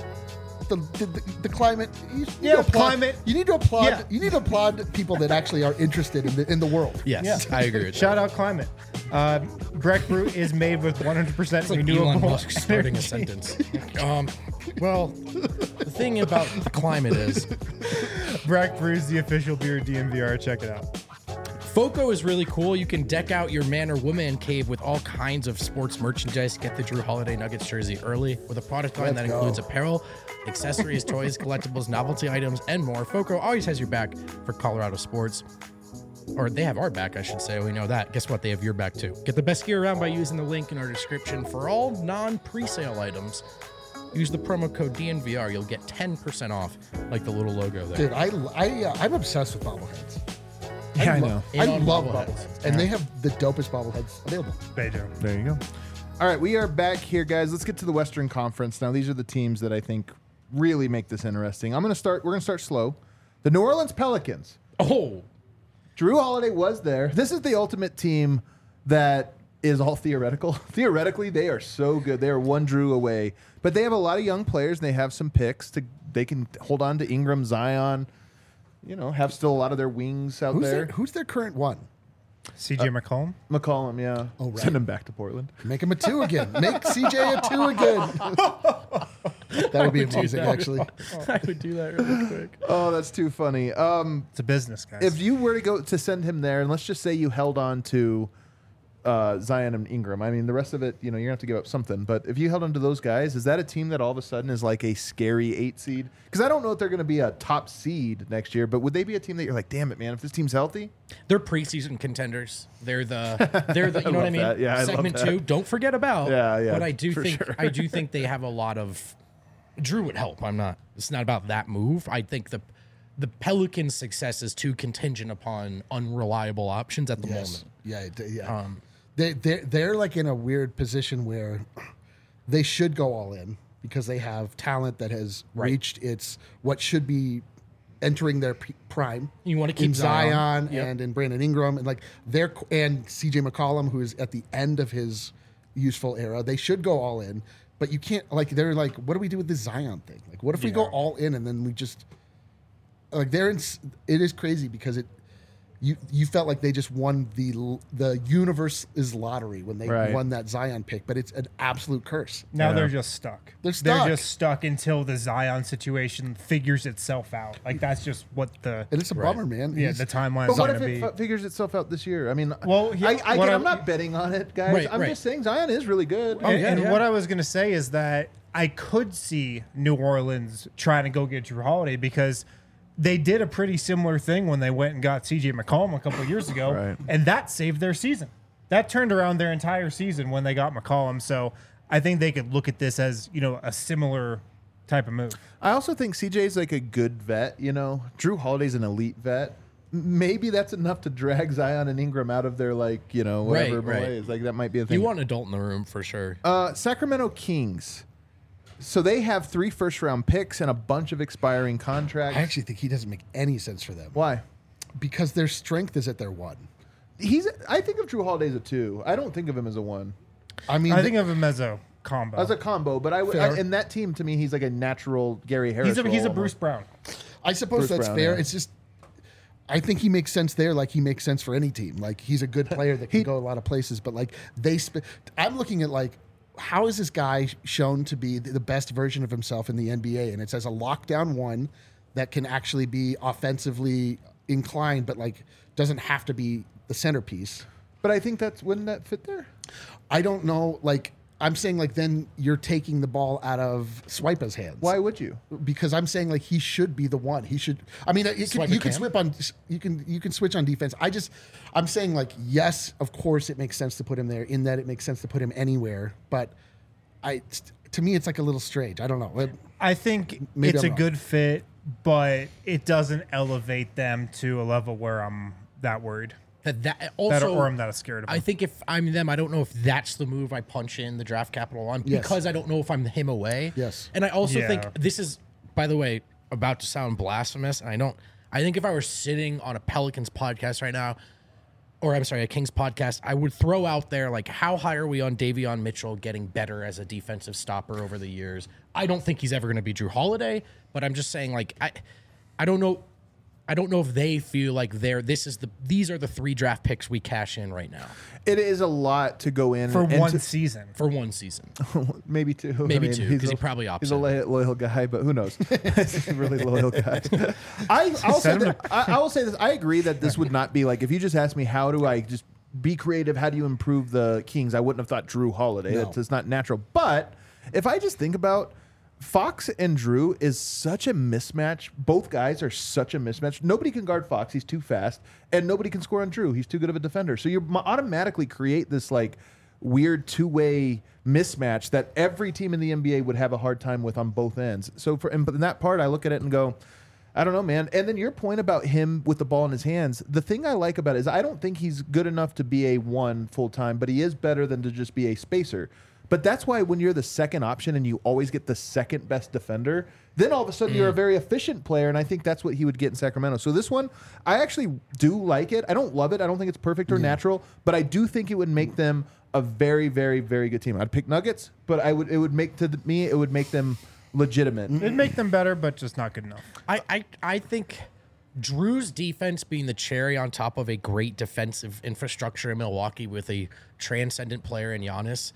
the climate. You need Yeah, to applaud, climate. You need to applaud. Yeah. You need to applaud people that actually are interested in the world. Yes, I agree with Shout out climate. Breck Brew is made with 100% It's like renewable Elon Musk starting a energy. sentence. Well, the thing about the climate is Breck Brew is the official beer of DNVR. Check it out. FOCO is really cool. You can deck out your man or woman cave with all kinds of sports merchandise. Get the Drew Holiday Nuggets jersey early with a product line that includes apparel, accessories, toys, collectibles, novelty items, and more. FOCO always has your back for Colorado sports. Or they have our back, I should say. We know that. Guess what? They have your back too. Get the best gear around by using the link in our description. For all non-presale items, use the promo code DNVR. You'll get 10% off, like the little logo there. Dude, I'm obsessed with bobbleheads. Yeah, I know. I In on love bobbleheads. bobbleheads, and they have the dopest bobbleheads available. They do. There you go. All right, we are back here, guys. Let's get to the Western Conference. Now, these are the teams that I think really make this interesting. We're going to start slow. The New Orleans Pelicans. Oh, Drew Holiday was there. This is the ultimate team that is all theoretical. Theoretically, they are so good. They are one Drew away. But they have a lot of young players, and they have some picks. They can hold on to Ingram, Zion, have still a lot of their wings out there. Who's their current one? CJ McCollum. McCollum, yeah. Oh, right. Send him back to Portland. Make him a 2 again. Make CJ a 2 again. That would be amazing, actually. I would do that really quick. Oh, that's too funny. It's a business, guys. If you were to go to send him there, and let's just say you held on to Zion and Ingram, I mean, the rest of it, you're going to have to give up something. But if you held on to those guys, is that a team that all of a sudden is like a scary 8 seed? Because I don't know if they're going to be a top seed next year, but would they be a team that you're like, damn it, man, if this team's healthy? They're preseason contenders. They're the you know what I mean? that. Yeah, I love Segment that. 2, don't forget about. Yeah, But I do for think sure. I do think they have a lot of Drew would help. It's not about that move. I think the Pelicans' success is too contingent upon unreliable options at the moment. Yeah. They're like in a weird position where they should go all in because they have talent that has reached what should be entering their prime. You want to keep in Zion Yep. and in Brandon Ingram and and CJ McCollum, who is at the end of his useful era. They should go all in, but you can't. They're like, what do we do with this Zion thing? Like, what if we go all in and then we just they're in? It is crazy because You felt like they just won the universe's lottery when they won that Zion pick, but it's an absolute curse. Now they're just stuck. They're stuck. They're just stuck until the Zion situation figures itself out. Like that's just what the And it's a bummer, man. the timeline But is what going if to it be. figures itself out this year? I mean, Well, I'm not betting on it, guys. Right, I'm right. just saying Zion is really good. And what I was going to say is that I could see New Orleans trying to go get Drew Holiday because they did a pretty similar thing when they went and got CJ McCollum a couple of years ago, Right. and that saved their season. That turned around their entire season when they got McCollum. So I think they could look at this as a similar type of move. I also think CJ's like a good vet. Drew Holiday's an elite vet. Maybe that's enough to drag Zion and Ingram out of their whatever Right. malaise. Like that might be a thing. You want an adult in the room for sure. Sacramento Kings. So they have 3 first-round picks and a bunch of expiring contracts. I actually think he doesn't make any sense for them. Why? because their strength is at their 1. I think of Drew Holiday as a 2. I don't think of him as a 1. I mean, I think of him as a combo. As a combo, but in that team, to me, he's like a natural Gary Harris. He's a role Bruce almost. Brown. I suppose Bruce that's Brown, fair. yeah. It's just, I think he makes sense there, like he makes sense for any team. Like he's a good player that can go a lot of places, but like I'm looking at like, how is this guy shown to be the best version of himself in the NBA? And it says a lockdown 1 that can actually be offensively inclined, but like doesn't have to be the centerpiece. But I think wouldn't that fit there? I don't know. Like I'm saying, like then you're taking the ball out of Swipa's hands. Why would you? Because I'm saying like he should be the one. He should. I mean, you can switch on. You can switch on defense. I'm saying like yes, of course it makes sense to put him there. In that it makes sense to put him anywhere. But to me it's like a little strange. I don't know. I think Maybe it's I'm a wrong. good fit, but it doesn't elevate them to a level where I'm that worried. That also, or I'm not scared of them. I think if I'm them, I don't know if that's the move I punch in the draft capital on Yes. because I don't know if I'm him away. Yes. And I also Yeah. think this is, by the way, about to sound blasphemous. And I think if I were sitting on a Pelicans podcast right now, or I'm sorry, a Kings podcast, I would throw out there like, how high are we on Davion Mitchell getting better as a defensive stopper over the years? I don't think he's ever going to be Drew Holiday, but I'm just saying like, I don't know. I don't know if they feel like these are the 3 draft picks we cash in right now It is a lot to go in for and one to- season. for one season. maybe 2. Maybe 2, 'cause a- he probably opts He's a in. loyal guy, but who knows? He's a really loyal guy. I'll say this. I agree that this would not be like if you just asked me how do I just be creative? How do you improve the Kings? I wouldn't have thought Drew Holiday. No. That's not natural. But if I just think about Fox and Drew is such a mismatch. Both guys are such a mismatch. Nobody can guard Fox. He's too fast. And nobody can score on Drew. He's too good of a defender. So you automatically create this like weird two-way mismatch that every team in the NBA would have a hard time with on both ends. So but in that part, I look at it and go, I don't know, man. And then your point about him with the ball in his hands, the thing I like about it is I don't think he's good enough to be a 1 full-time, but he is better than to just be a spacer. But that's why when you're the second option and you always get the second best defender, then all of a sudden you're a very efficient player, and I think that's what he would get in Sacramento. So this one, I actually do like it. I don't love it. I don't think it's perfect or natural, but I do think it would make them a very, very, very good team. I'd pick Nuggets, but it would make them legitimate. It'd make them better, but just not good enough. I think Drew's defense being the cherry on top of a great defensive infrastructure in Milwaukee with a transcendent player in Giannis,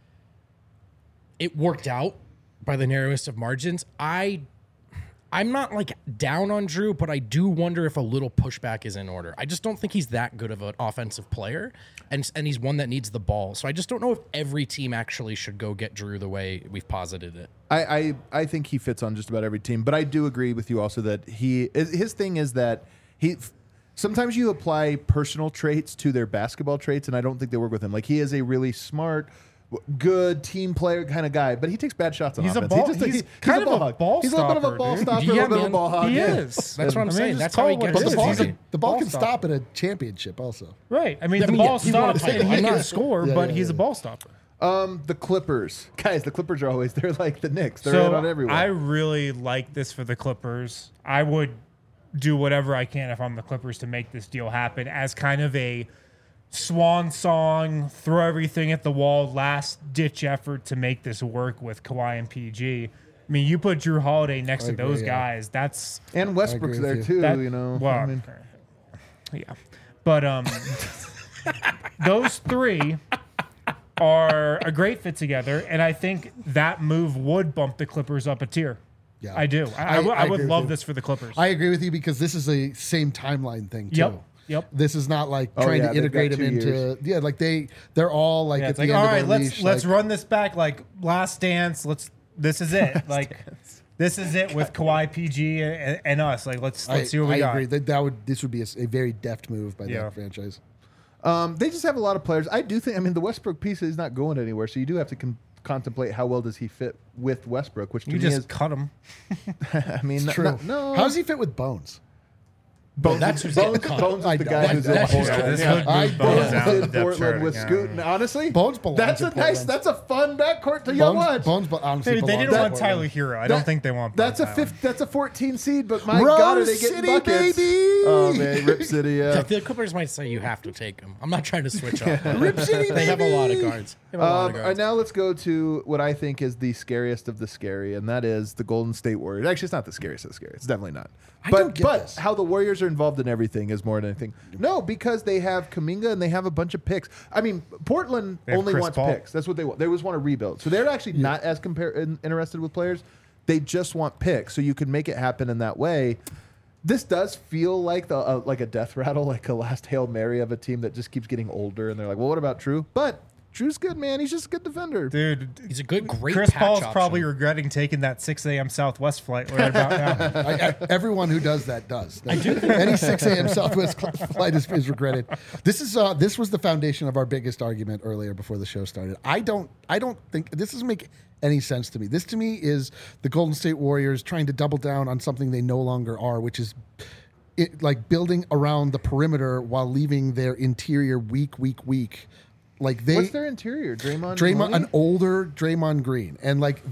it worked out by the narrowest of margins. I'm not like down on Drew, but I do wonder if a little pushback is in order. I just don't think he's that good of an offensive player, and he's one that needs the ball. So I just don't know if every team actually should go get Drew the way we've posited it. I think he fits on just about every team, but I do agree with you also that his thing is that sometimes you apply personal traits to their basketball traits, and I don't think they work with him. Like he is a really smart, good team player kind of guy, but he takes bad shots on He's offense. a ball. He's Kind a of a hog. ball He's a little bit of a stopper, ball dude. stopper, Yeah, a little bit of a man. ball hog. He Yeah. is. That's what I'm I mean, saying. just That's call how he it what gets it But his the ball, is. money. the ball Ball can stopper. stop at a championship also. Right. I mean, I the mean, ball yeah, he won a stops. title. He I'm can not- score, Yeah, but yeah, he's a yeah. ball stopper. The Clippers. Guys, the Clippers are always, they're like the Knicks. They're in on everyone. I really like this for the Clippers. I would do whatever I can if I'm the Clippers to make this deal happen as kind of a swan song, throw everything at the wall, last ditch effort to make this work with Kawhi and PG. I mean, you put Drew Holiday next to agree, those yeah. guys. That's and Westbrook's agree there with too, that, you know. Well, I mean, yeah, but those three are a great fit together, and I think that move would bump the Clippers up a tier. Yeah. I do. I I would agree with love you. this for the Clippers. I agree with you because this is a same timeline thing too. Yep. Yep. This is not like Oh, trying yeah, to they've integrate got them 2 into years. like they're all like Yeah, at it's the like, end all of right, their let's leash, like, run this back like Last Dance. This is it. This is it with Kawhi, PG, and us. Like let's see what we I got. agree. This would be a very deft move by Yeah. that franchise. they just have a lot of players. I do think, I mean, the Westbrook piece is not going anywhere, so you do have to contemplate how well does he fit with Westbrook, which to You me just is, cut him. I mean, True. no. How does he fit with Bones? Bones, that's who's Bones, getting caught. Bones I is the know, guy I who's know. in Yeah, Portland. this Yeah. would move Bones Bones out of in the depth Portland chart with again. Scoot. Honestly, Bones belongs that's in a nice. Portland. That's a fun backcourt to Bones, watch. honestly Dude, they belongs didn't in want Portland. Tyler Hero. I don't think they want. That's a Bones fifth. That's a 14 seed. But my Rose God, are they getting City, buckets? baby! Oh man, Rip City. Yeah. The Clippers might say you have to take him. I'm not trying to switch up. Rip City, They have a lot of baby! guards. They have a lot of guards. Now let's go to what I think is the scariest of the scary, and that is the Golden State Warriors. Actually, it's not the scariest of the scary. It's definitely not. I But don't get this. how the Warriors are involved in everything is more than anything. No, because they have Kuminga and they have a bunch of picks. I mean, Portland They have only Chris wants Paul. picks. That's what they want. They just want to rebuild. So they're actually not as interested with players. They just want picks. So you can make it happen in that way. This does feel like like a death rattle, like a last Hail Mary of a team that just keeps getting older. And they're like, well, what about Drew? But Drew's good, man. He's just a good defender. Dude, He's a great Chris patch Paul's option. probably regretting taking that 6 a.m. Southwest flight right about now. Everyone who does that does. Any 6 a.m. Southwest flight is regretted. This was the foundation of our biggest argument earlier before the show started. I don't think this doesn't make any sense to me. This to me is the Golden State Warriors trying to double down on something they no longer are, which is like building around the perimeter while leaving their interior weak. Like What's their interior? Draymond, Looney? an older Draymond Green, and like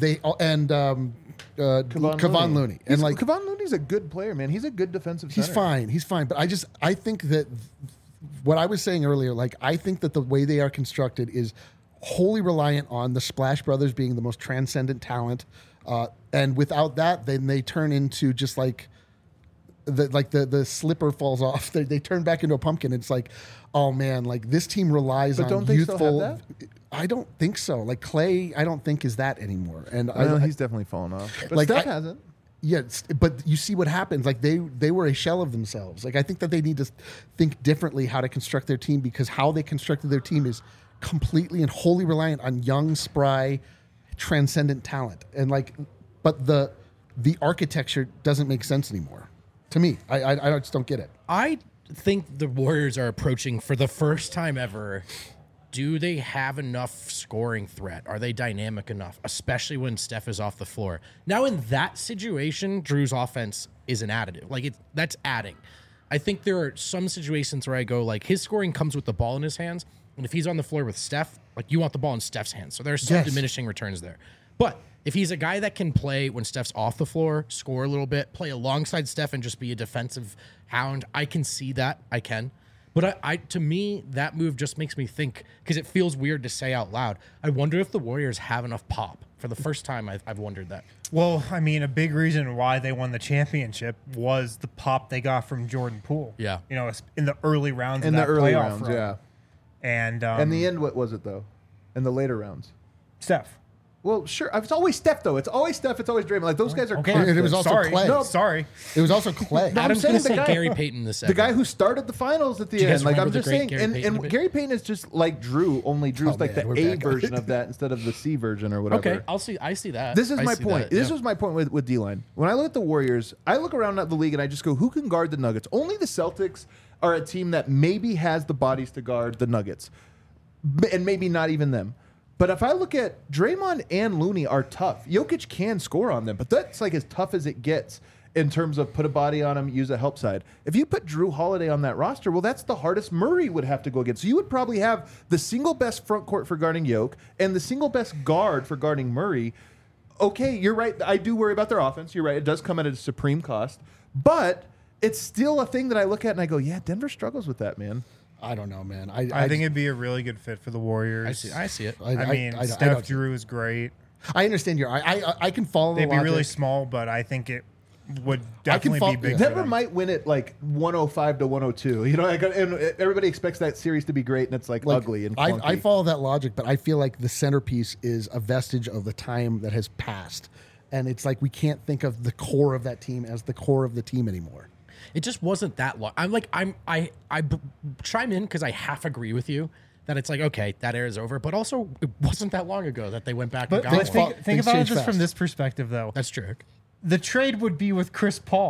Kevon Looney, and like Kevon Looney's a good player, man. He's a good defensive he's center. fine, but I think that what I was saying earlier, like I think that the way they are constructed is wholly reliant on the Splash Brothers being the most transcendent talent, and without that, then they turn into just like the slipper falls off. They turn back into a pumpkin. It's like, oh man, like this team relies But on don't they still youthful. have I don't think so. Like Clay, I don't think is that anymore. And He's definitely fallen off. But Like, Steph I- hasn't. yeah, but you see what happens. Like they were a shell of themselves. Like I think that they need to think differently how to construct their team, because how they constructed their team is completely and wholly reliant on young, spry, transcendent talent. And like, but the architecture doesn't make sense anymore to me. I just don't get it. I think the Warriors are approaching for the first time ever. Do they have enough scoring threat? Are they dynamic enough, especially when Steph is off the floor? Now, in that situation, Drew's offense is an additive. Like that's adding. I think there are some situations where I go like his scoring comes with the ball in his hands, and if he's on the floor with Steph, like you want the ball in Steph's hands. So there's some Yes. diminishing returns there. But if he's a guy that can play when Steph's off the floor, score a little bit, play alongside Steph, and just be a defensive hound, I can see that. I can. But I to me, that move just makes me think, because it feels weird to say out loud, I wonder if the Warriors have enough pop. For the first time, I've wondered that. Well, I mean, a big reason why they won the championship was the pop they got from Jordan Poole. Yeah. You know, in the early rounds In of the that early playoff rounds, run. yeah. And In the end, what was it, though? In the later rounds? Steph. Well, sure. It's always Steph, though. It's always Steph. It's always Draymond. Like, those guys are Okay, constant. And it was also sorry. Clay. No, sorry. It was also Clay. No, I'm Adam's saying going to the say guy- Gary Payton the The second. guy who started the finals at the you guys end. Like, I'm remember the just great saying. Gary Payton And bit? Gary Payton is just like Drew, only Drew's Oh, like man, we're the A back on version it. of that instead of the C version or whatever. Okay, I see that. This is I my see point. that, This yeah. was my point with D-line. When I look at the Warriors, I look around the league and I just go, who can guard the Nuggets? Only the Celtics are a team that maybe has the bodies to guard the Nuggets. And maybe not even them. But if I look at Draymond and Looney are tough. Jokic can score on them, but that's like as tough as it gets in terms of put a body on him, use a help side. If you put Drew Holiday on that roster, well, that's the hardest Murray would have to go against. So you would probably have the single best front court for guarding Jokic and the single best guard for guarding Murray. Okay, you're right. I do worry about their offense. You're right. It does come at a supreme cost. But it's still a thing that I look at and I go, yeah, Denver struggles with that, man. I don't know, man. I think it'd be a really good fit for the Warriors. I see it. I mean, I Steph don't- Drew is great. I understand your. I can follow. They'd the be really logic. small, but I think it would I can definitely follow- be big. Denver for them. might win it like 105 to 102. You know, like, and everybody expects that series to be great, and it's like ugly and clunky. I follow that logic, but I feel like the centerpiece is a vestige of the time that has passed, and it's like we can't think of the core of that team as the core of the team anymore. It just wasn't that long. I chime in because I half agree with you that it's like, okay, that era is over, but also it wasn't that long ago that they went back and But got one. think things about it change just fast. from this perspective, though. That's true. The trade would be with Chris Paul.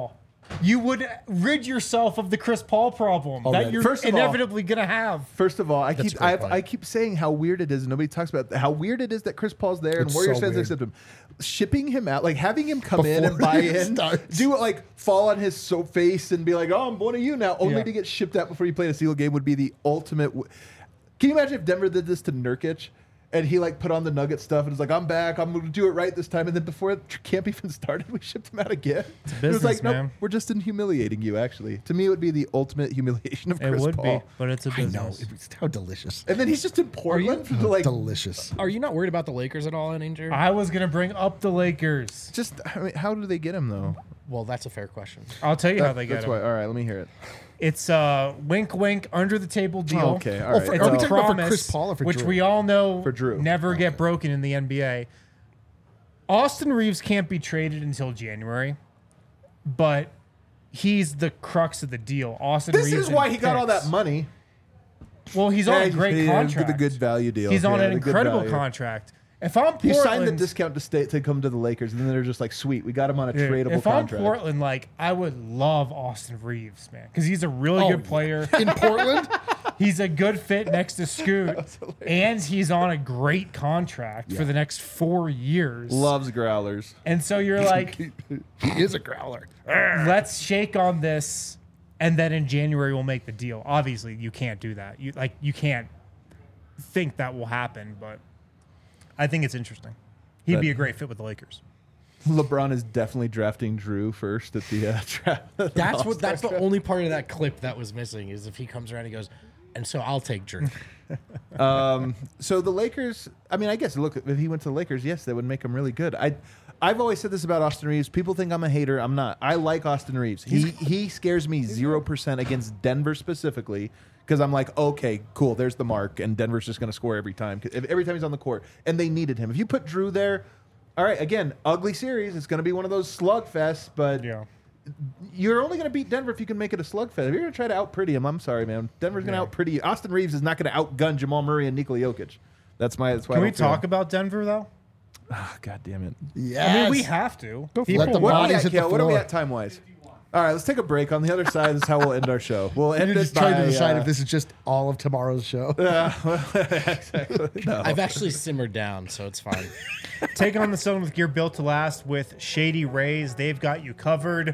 you would rid yourself of the Chris Paul problem that Already. you're First of all- inevitably going to have. First of all, a great point. I keep saying how weird it is. And nobody talks about how weird it is that Chris Paul's there and It's Warriors so fans weird. accept him. Shipping him out, like having him come in and Before buy he in, starts. do it like fall on his face and be like, "Oh, I'm one of you now," only Yeah. to get shipped out before you play a single game would be the ultimate. Can you imagine if Denver did this to Nurkic? And he like put on the Nugget stuff and was like, "I'm back. I'm going to do it right this time." And then before camp even started, we shipped him out again. It was business, like, "Nope, man. we're just in humiliating you." Actually, to me, it would be the ultimate humiliation of It Chris would Paul. be, but it's a I business. know. It's how delicious. And then he's just in Portland, like Delicious. Are you not worried about the Lakers at all, Aninger? I was going to bring up the Lakers. just. I mean, how do they get him though? Well, that's a fair question. I'll tell you how they get That's him. why. All right, let me hear it. It's wink, wink, under the table deal. Oh, okay, all right. for- It's are we a talking about for promise, Chris Paul or for which Drew? we all know For Drew. never get broken in the NBA. Austin Reeves can't be traded until January, but he's the crux of the deal. Austin This Reeves is why and he got all picks. that money. Well, he's on a great Yeah, contract. The good value deal. He's on Yeah, an the good incredible value. contract. If I'm Portland, He signed the discount to stay to come to the Lakers, and then they're just like, "Sweet, we got him on a Dude, tradable if contract." I'm Portland, like I would love Austin Reeves, man, because he's a really good player. In Portland? He's a good fit next to Scoot, and he's on a great contract for the next 4 years. Loves growlers. And so you're like, He is a growler. let's shake on this, and then in January we'll make the deal. Obviously, you can't do that. You can't think that will happen, but I think it's interesting. He'd be a great fit with the Lakers. LeBron is definitely drafting Drew first at the draft. That's the only part of that clip that was missing is if he comes around and goes, and so I'll take Drew. So the Lakers, I mean, I guess look, if he went to the Lakers, yes, that would make him really good. I've always said this about Austin Reeves. People think I'm a hater. I'm not. I like Austin Reeves. He scares me 0% against Denver specifically because I'm like, okay, cool, there's the mark, and Denver's just going to score every time. Every time he's on the court, and they needed him. If you put Drew there, all right, again, ugly series. It's going to be one of those slugfests, but Yeah. you're only going to beat Denver if you can make it a slugfest. If you're going to try to out-pretty him, I'm sorry, man. Denver's going to out-pretty you. Austin Reeves is not going to outgun Jamal Murray and Nikola Jokic. That's why. Can we talk about Denver though? God damn it. Yes. I mean, we have to. Let People the What are, we bodies at, hit the Kale? What are we floor. at time-wise? All right, let's take a break. On the other side is how we'll end our show. We'll end You're it just trying by, to decide if this is just all of tomorrow's show. I've actually simmered down, so it's fine. Taking on the sun with gear built to last with Shady Rays. They've got you covered.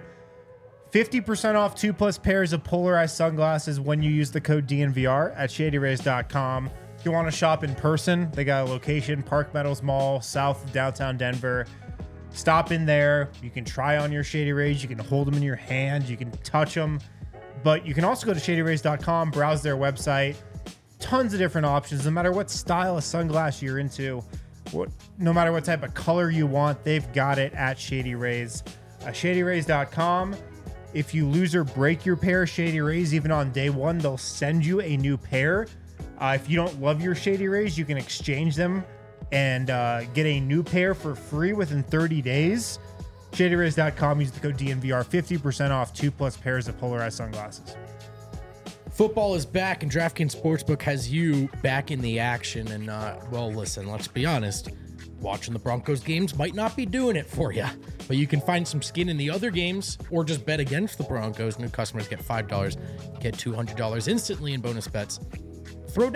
50% off 2+ pairs of polarized sunglasses when you use the code DNVR at shadyrays.com. If you want to shop in person, they got a location, Park Meadows Mall, south of downtown Denver. Stop in there. You can try on your Shady Rays. You can hold them in your hand. You can touch them. But you can also go to shadyrays.com, browse their website. Tons of different options. No matter what style of sunglass you're into, no matter what type of color you want, they've got it at Shady Rays. Shadyrays.com. If you lose or break your pair of Shady Rays, even on day one, they'll send you a new pair. If you don't love your Shady Rays, you can exchange them and get a new pair for free within 30 days. ShadyRays.com. Use the code DNVR. 50% off 2+ pairs of polarized sunglasses. Football is back, and DraftKings Sportsbook has you back in the action. And, well, listen, let's be honest. Watching the Broncos games might not be doing it for you, but you can find some skin in the other games or just bet against the Broncos. New customers get $5, get $200 instantly in bonus bets. Throw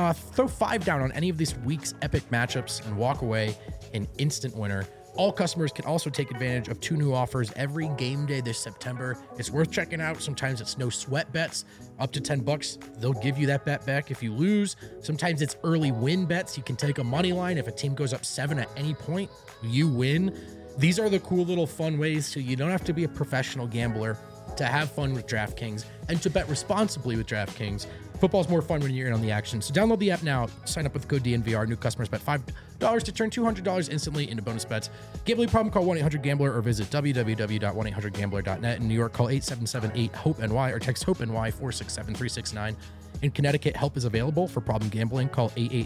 $5 down on any of this week's epic matchups and walk away an instant winner. All customers can also take advantage of 2 new offers every game day this September. It's worth checking out. Sometimes it's no sweat bets, up to $10. They'll give you that bet back if you lose. Sometimes it's early win bets. You can take a money line. If a team goes up 7 at any point, you win. These are the cool little fun ways so you don't have to be a professional gambler to have fun with DraftKings and to bet responsibly with DraftKings. Football's more fun when you're in on the action. So download the app now. Sign up with code DNVR. New customers bet $5 to turn $200 instantly into bonus bets. Gambling problem? Call 1-800-GAMBLER or visit www.1800gambler.net. In New York, call 877-8-HOPE-NY or text HOPE-NY 467-369. In Connecticut, help is available for problem gambling. Call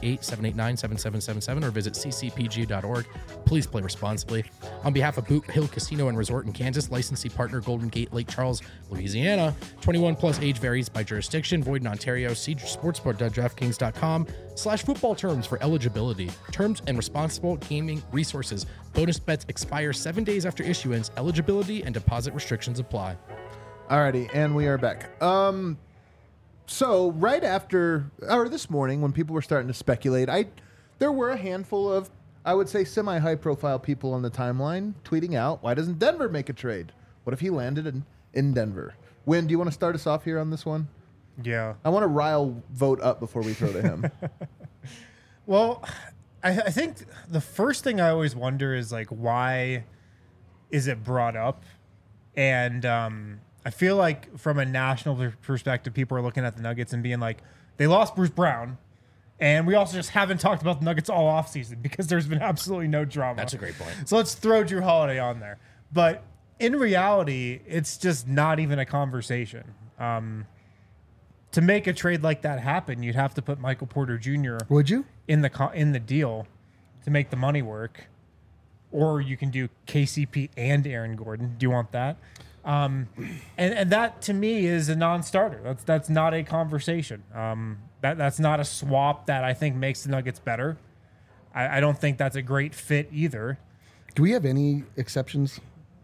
888-789-7777 or visit ccpg.org. Please play responsibly. On behalf of Boot Hill Casino and Resort in Kansas, licensee partner Golden Gate Lake Charles, Louisiana. 21 plus age varies by jurisdiction. Void in Ontario. See sportsbook.draftkings.com/football terms for eligibility. Terms and responsible gaming resources. Bonus bets expire 7 days after issuance. Eligibility and deposit restrictions apply. Alrighty, and we are back. So right after, or this morning, when people were starting to speculate, there were a handful of, I would say, semi-high-profile people on the timeline tweeting out, "Why doesn't Denver make a trade? What if he landed in Denver?" Win, do you want to start us off here on this one? Yeah. I want to Ryle vote up before we throw to him. Well, I think the first thing I always wonder is like, why is it brought up? And I feel like from a national perspective, people are looking at the Nuggets and being like, they lost Bruce Brown. And we also just haven't talked about the Nuggets all offseason because there's been absolutely no drama. That's a great point. So let's throw Drew Holiday on there. But in reality, it's just not even a conversation. To make a trade like that happen, you'd have to put Michael Porter Jr. Would you? in the deal to make the money work, or you can do KCP and Aaron Gordon. Do you want that? And that to me is a non-starter. That's not a conversation. That's not a swap that I think makes the Nuggets better. I don't think that's a great fit either. Do we have any exceptions?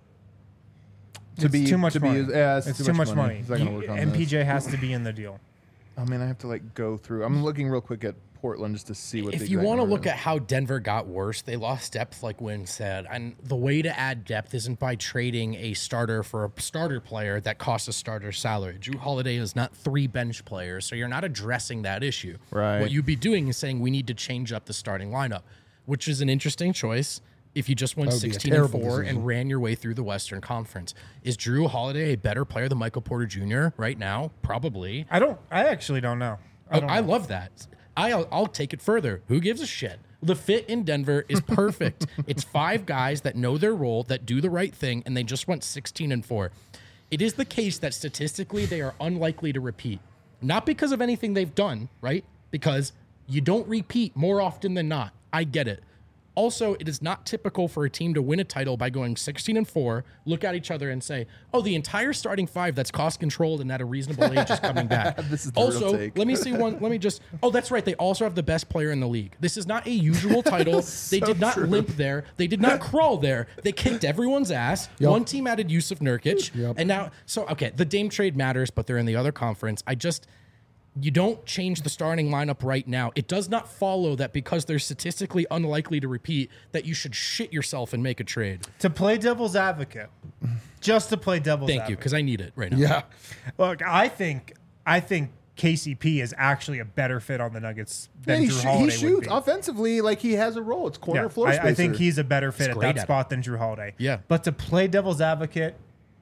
It's too much money. It's too much money. It's not gonna work on this. MPJ has to be in the deal. I mean, I have to like go through. I'm looking real quick at Portland just to see what. If you want to look at how Denver got worse, they lost depth, like Wynn said. And the way to add depth isn't by trading a starter for a starter player that costs a starter's salary. Drew Holiday is not 3 bench players, so you're not addressing that issue. Right. What you'd be doing is saying we need to change up the starting lineup, which is an interesting choice. If you just went That would be a 16-4 terrible decision. and ran your way through the Western Conference, is Drew Holiday a better player than Michael Porter Jr. right now? Probably. I actually don't know. I love that. I'll take it further. Who gives a shit? The fit in Denver is perfect. It's 5 guys that know their role, that do the right thing, and they just went 16-4. It is the case that statistically they are unlikely to repeat. Not because of anything they've done, right? Because you don't repeat more often than not. I get it. Also, it is not typical for a team to win a title by going 16-4, look at each other and say, "Oh, the entire starting 5 that's cost controlled and at a reasonable age is coming back." This is the real also, take. let me see one. Let me just. Oh, that's right. They also have the best player in the league. This is not a usual title. They did not limp there. They did not crawl there. They kicked everyone's ass. Yep. One team added Yusuf Nurkic, Yep. and now the Dame trade matters, but they're in the other conference. You don't change the starting lineup right now. It does not follow that because they're statistically unlikely to repeat that you should shit yourself and make a trade. To play devil's advocate, just to play devil's Thank you, advocate. because I need it right now. Yeah. Look, I think KCP is actually a better fit on the Nuggets Yeah, than he Drew Holiday would shoots be. offensively like he has a role. It's corner floor spacer. I think he's a better fit He's at great that at spot than Drew Holiday. Yeah. But to play devil's advocate,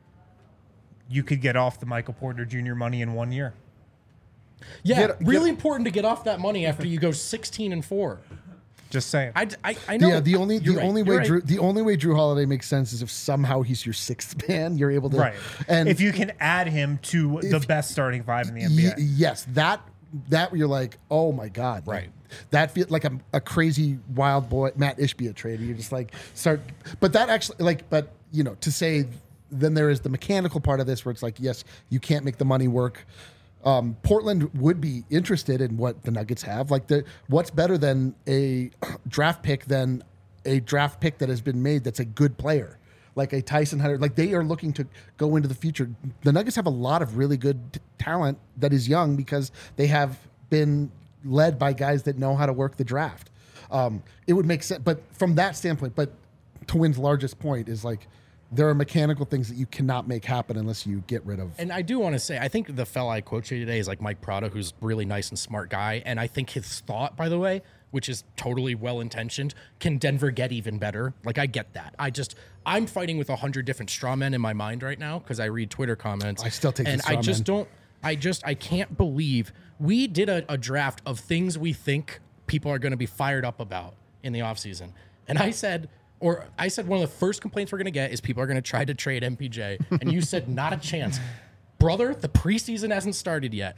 you could get off the Michael Porter Jr. money in 1 year. Yeah, really important to get off that money after you go 16-4. Just saying. I know. Yeah, the only You're right. way You're right. the only way Drew Holiday makes sense is if somehow he's your 6th man. You're able to Right. And if you can add him to the best starting 5 in the NBA. yes, that you're like, oh my god, like, Right. that feels like a crazy wild boy Matt Ishbia trade. You're just like but that actually but to say then there is the mechanical part of this where it's like, yes, you can't make the money work. Portland would be interested in what the Nuggets have. Like, what's better than a draft pick than a draft pick that has been made that's a good player, like a Tyson Hunter. Like, they are looking to go into the future. The Nuggets have a lot of really good talent that is young because they have been led by guys that know how to work the draft. It would make sense, but from that standpoint, but to Wynn's largest point is like, there are mechanical things that you cannot make happen unless you get rid of. And I do want to say, I think the fella I quote you today is like Mike Prado, who's a really nice and smart guy. And I think his thought, by the way, which is totally well-intentioned, can Denver get even better? Like, I get that. I'm fighting with 100 different straw men in my mind right now because I read Twitter comments. I still take the and straw I just men. I can't believe we did a draft of things we think people are going to be fired up about in the offseason. And I said one of the first complaints we're going to get is people are going to try to trade MPJ. And you said, not a chance. Brother, the preseason hasn't started yet.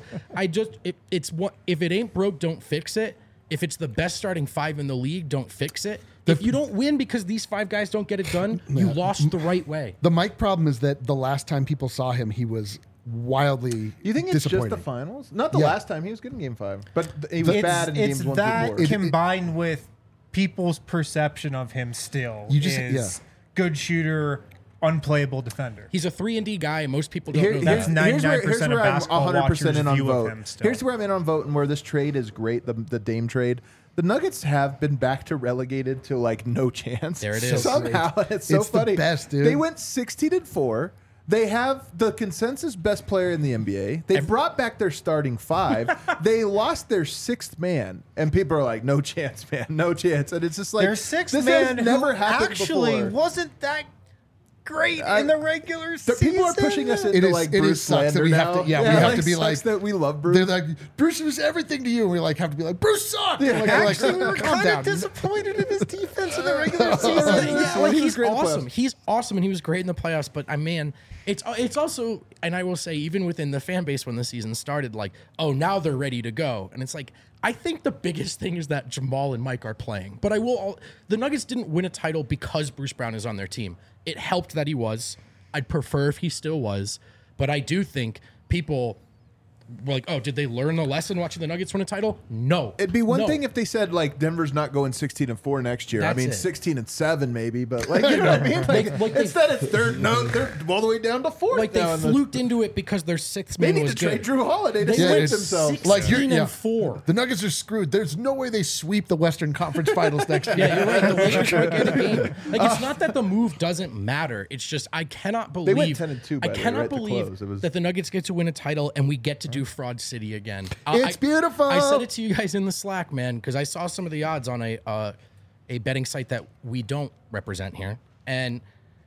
If it ain't broke, don't fix it. If it's the best starting 5 in the league, don't fix it. If you don't win because these 5 guys don't get it done, you lost the right way. The Mike problem is that the last time people saw him, he was wildly You think it's just disappointing. the finals? Not the Yeah. last time. He was good in Game 5. But he was bad in It's Games 1 that through 4. combined with people's perception of him still You just- is yeah. good shooter, unplayable defender. He's a 3-and-D guy, and most people don't Here- know That's that. here's where- 99% here's of where I'm basketball 100% watchers' in on view of vote. him still. Here's where I'm in on vote and where this trade is great, the Dame trade. The Nuggets have been back to relegated to like no chance. There it is. Somehow, it's so It's the funny. best, dude. They went 16-4. They have the consensus best player in the NBA. They brought back their starting 5. They lost their 6th man, and people are like, "No chance, man, no chance." And it's just like Their sixth this man has never who happened actually before. wasn't that great in the regular The season. people are pushing us into like it Bruce sucks that slander we now. have to, we have to be sucks like, that we love Bruce. they're like, Bruce was everything to you. And we like have to be like, Bruce sucked. Yeah, And like, Actually, we we're were like, calm kind down. of disappointed in his defense in the regular Yeah, season. like He was he's great in the awesome. playoffs. He's awesome, and he was great in the playoffs. But man, it's also, and I will say, even within the fan base when the season started, like, oh, now they're ready to go, and it's like, I think the biggest thing is that Jamal and Mike are playing. But the Nuggets didn't win a title because Bruce Brown is on their team. It helped that he was. I'd prefer if he still was, but I do think people were like, oh, did they learn the lesson watching the Nuggets win a title? No. It'd be one No. thing if they said like Denver's not going 16-4 next year. That's I mean it. 16-7 maybe, but like you know what I mean. Like, instead it's they're all the way down to 4th. Like they now in the- fluked into it because their 6th They man need was to trade good. Drew Holiday to They switch went themselves. Like, you're- 16-4. The Nuggets are screwed. There's no way they sweep the Western Conference Finals next year. Yeah, you're right. The Lakers might get a game. Like it's not that the move doesn't matter. It's just I cannot believe went 10-2 by I the way, cannot right to believe close. It was- that the Nuggets get to win a title and we get to do Fraud City again. It's beautiful. I said it to you guys in the Slack, man, because I saw some of the odds on a betting site that we don't represent here, and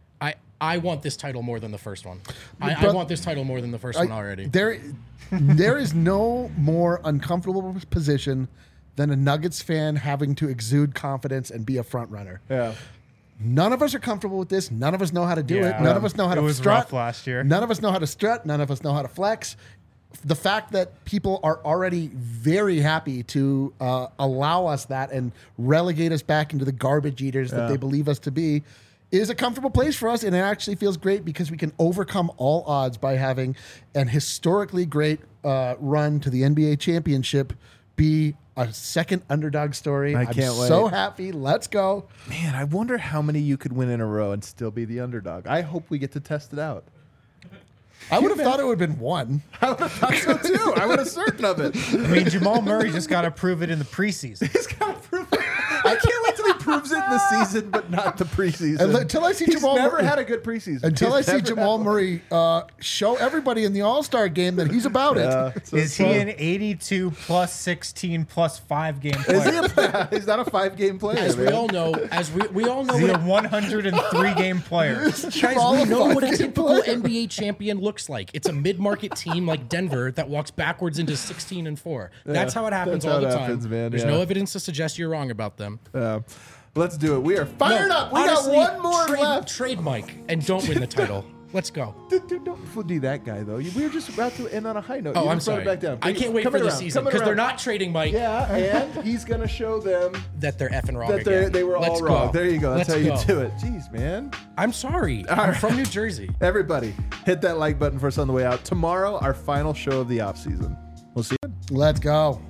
I want this title more than the first one. I But- want this title more than the first one already. There is no more uncomfortable position than a Nuggets fan having to exude confidence and be a front runner. Yeah. None of us are comfortable with this. None of us know how to do Yeah. it. None of us know how It to was strut. rough last year. None of us know how to strut. None of us know how to flex. The fact that people are already very happy to allow us that and relegate us back into the garbage eaters that they believe us to be is a comfortable place for us. And it actually feels great because we can overcome all odds by having an historically great run to the NBA championship be a second underdog story. I I'm can't so wait. happy. Let's go. Man, I wonder how many you could win in a row and still be the underdog. I hope we get to test it out. I would have thought it would have been one. I would have thought so too. I would have certain of it. I mean, Jamal Murray just got to prove it in the preseason. He's got to prove it. I can't wait till he proves it in the season, but not the preseason. Until I see He's Jamal never Murray- had a good preseason. Until I He's see never Jamal had one. Murray show everybody in the All-Star game that he's about it. Is he an 82 plus 16 plus 5 game Is player? he a player? He's not a 5-game player. As we man. all know, we all know Is he what a 103 game player? Guys, All we a know what a fucking typical player. NBA champion looks like. It's a mid-market team like Denver that walks backwards into 16-4. That's how it happens that's all how the it time. happens, man, There's yeah. no evidence to suggest you're wrong about them. Let's do it. We are fired No, up. We honestly, got one more trade, left. Trade Mike and don't win the title. Let's go. Dude, don't do that guy though. We were just about to end on a high note. Oh, You I'm just brought sorry. it back down. I can't wait for Coming the around, season coming because they're around. not trading Mike. Yeah, and he's gonna show them That they're effing wrong that again. they were Let's all wrong. go. There you go. That's Let's how you go. do it. Jeez, man. I'm sorry. I'm from New Jersey. Everybody, hit that like button for us on the way out. Tomorrow, our final show of the off season. We'll see you. Let's go.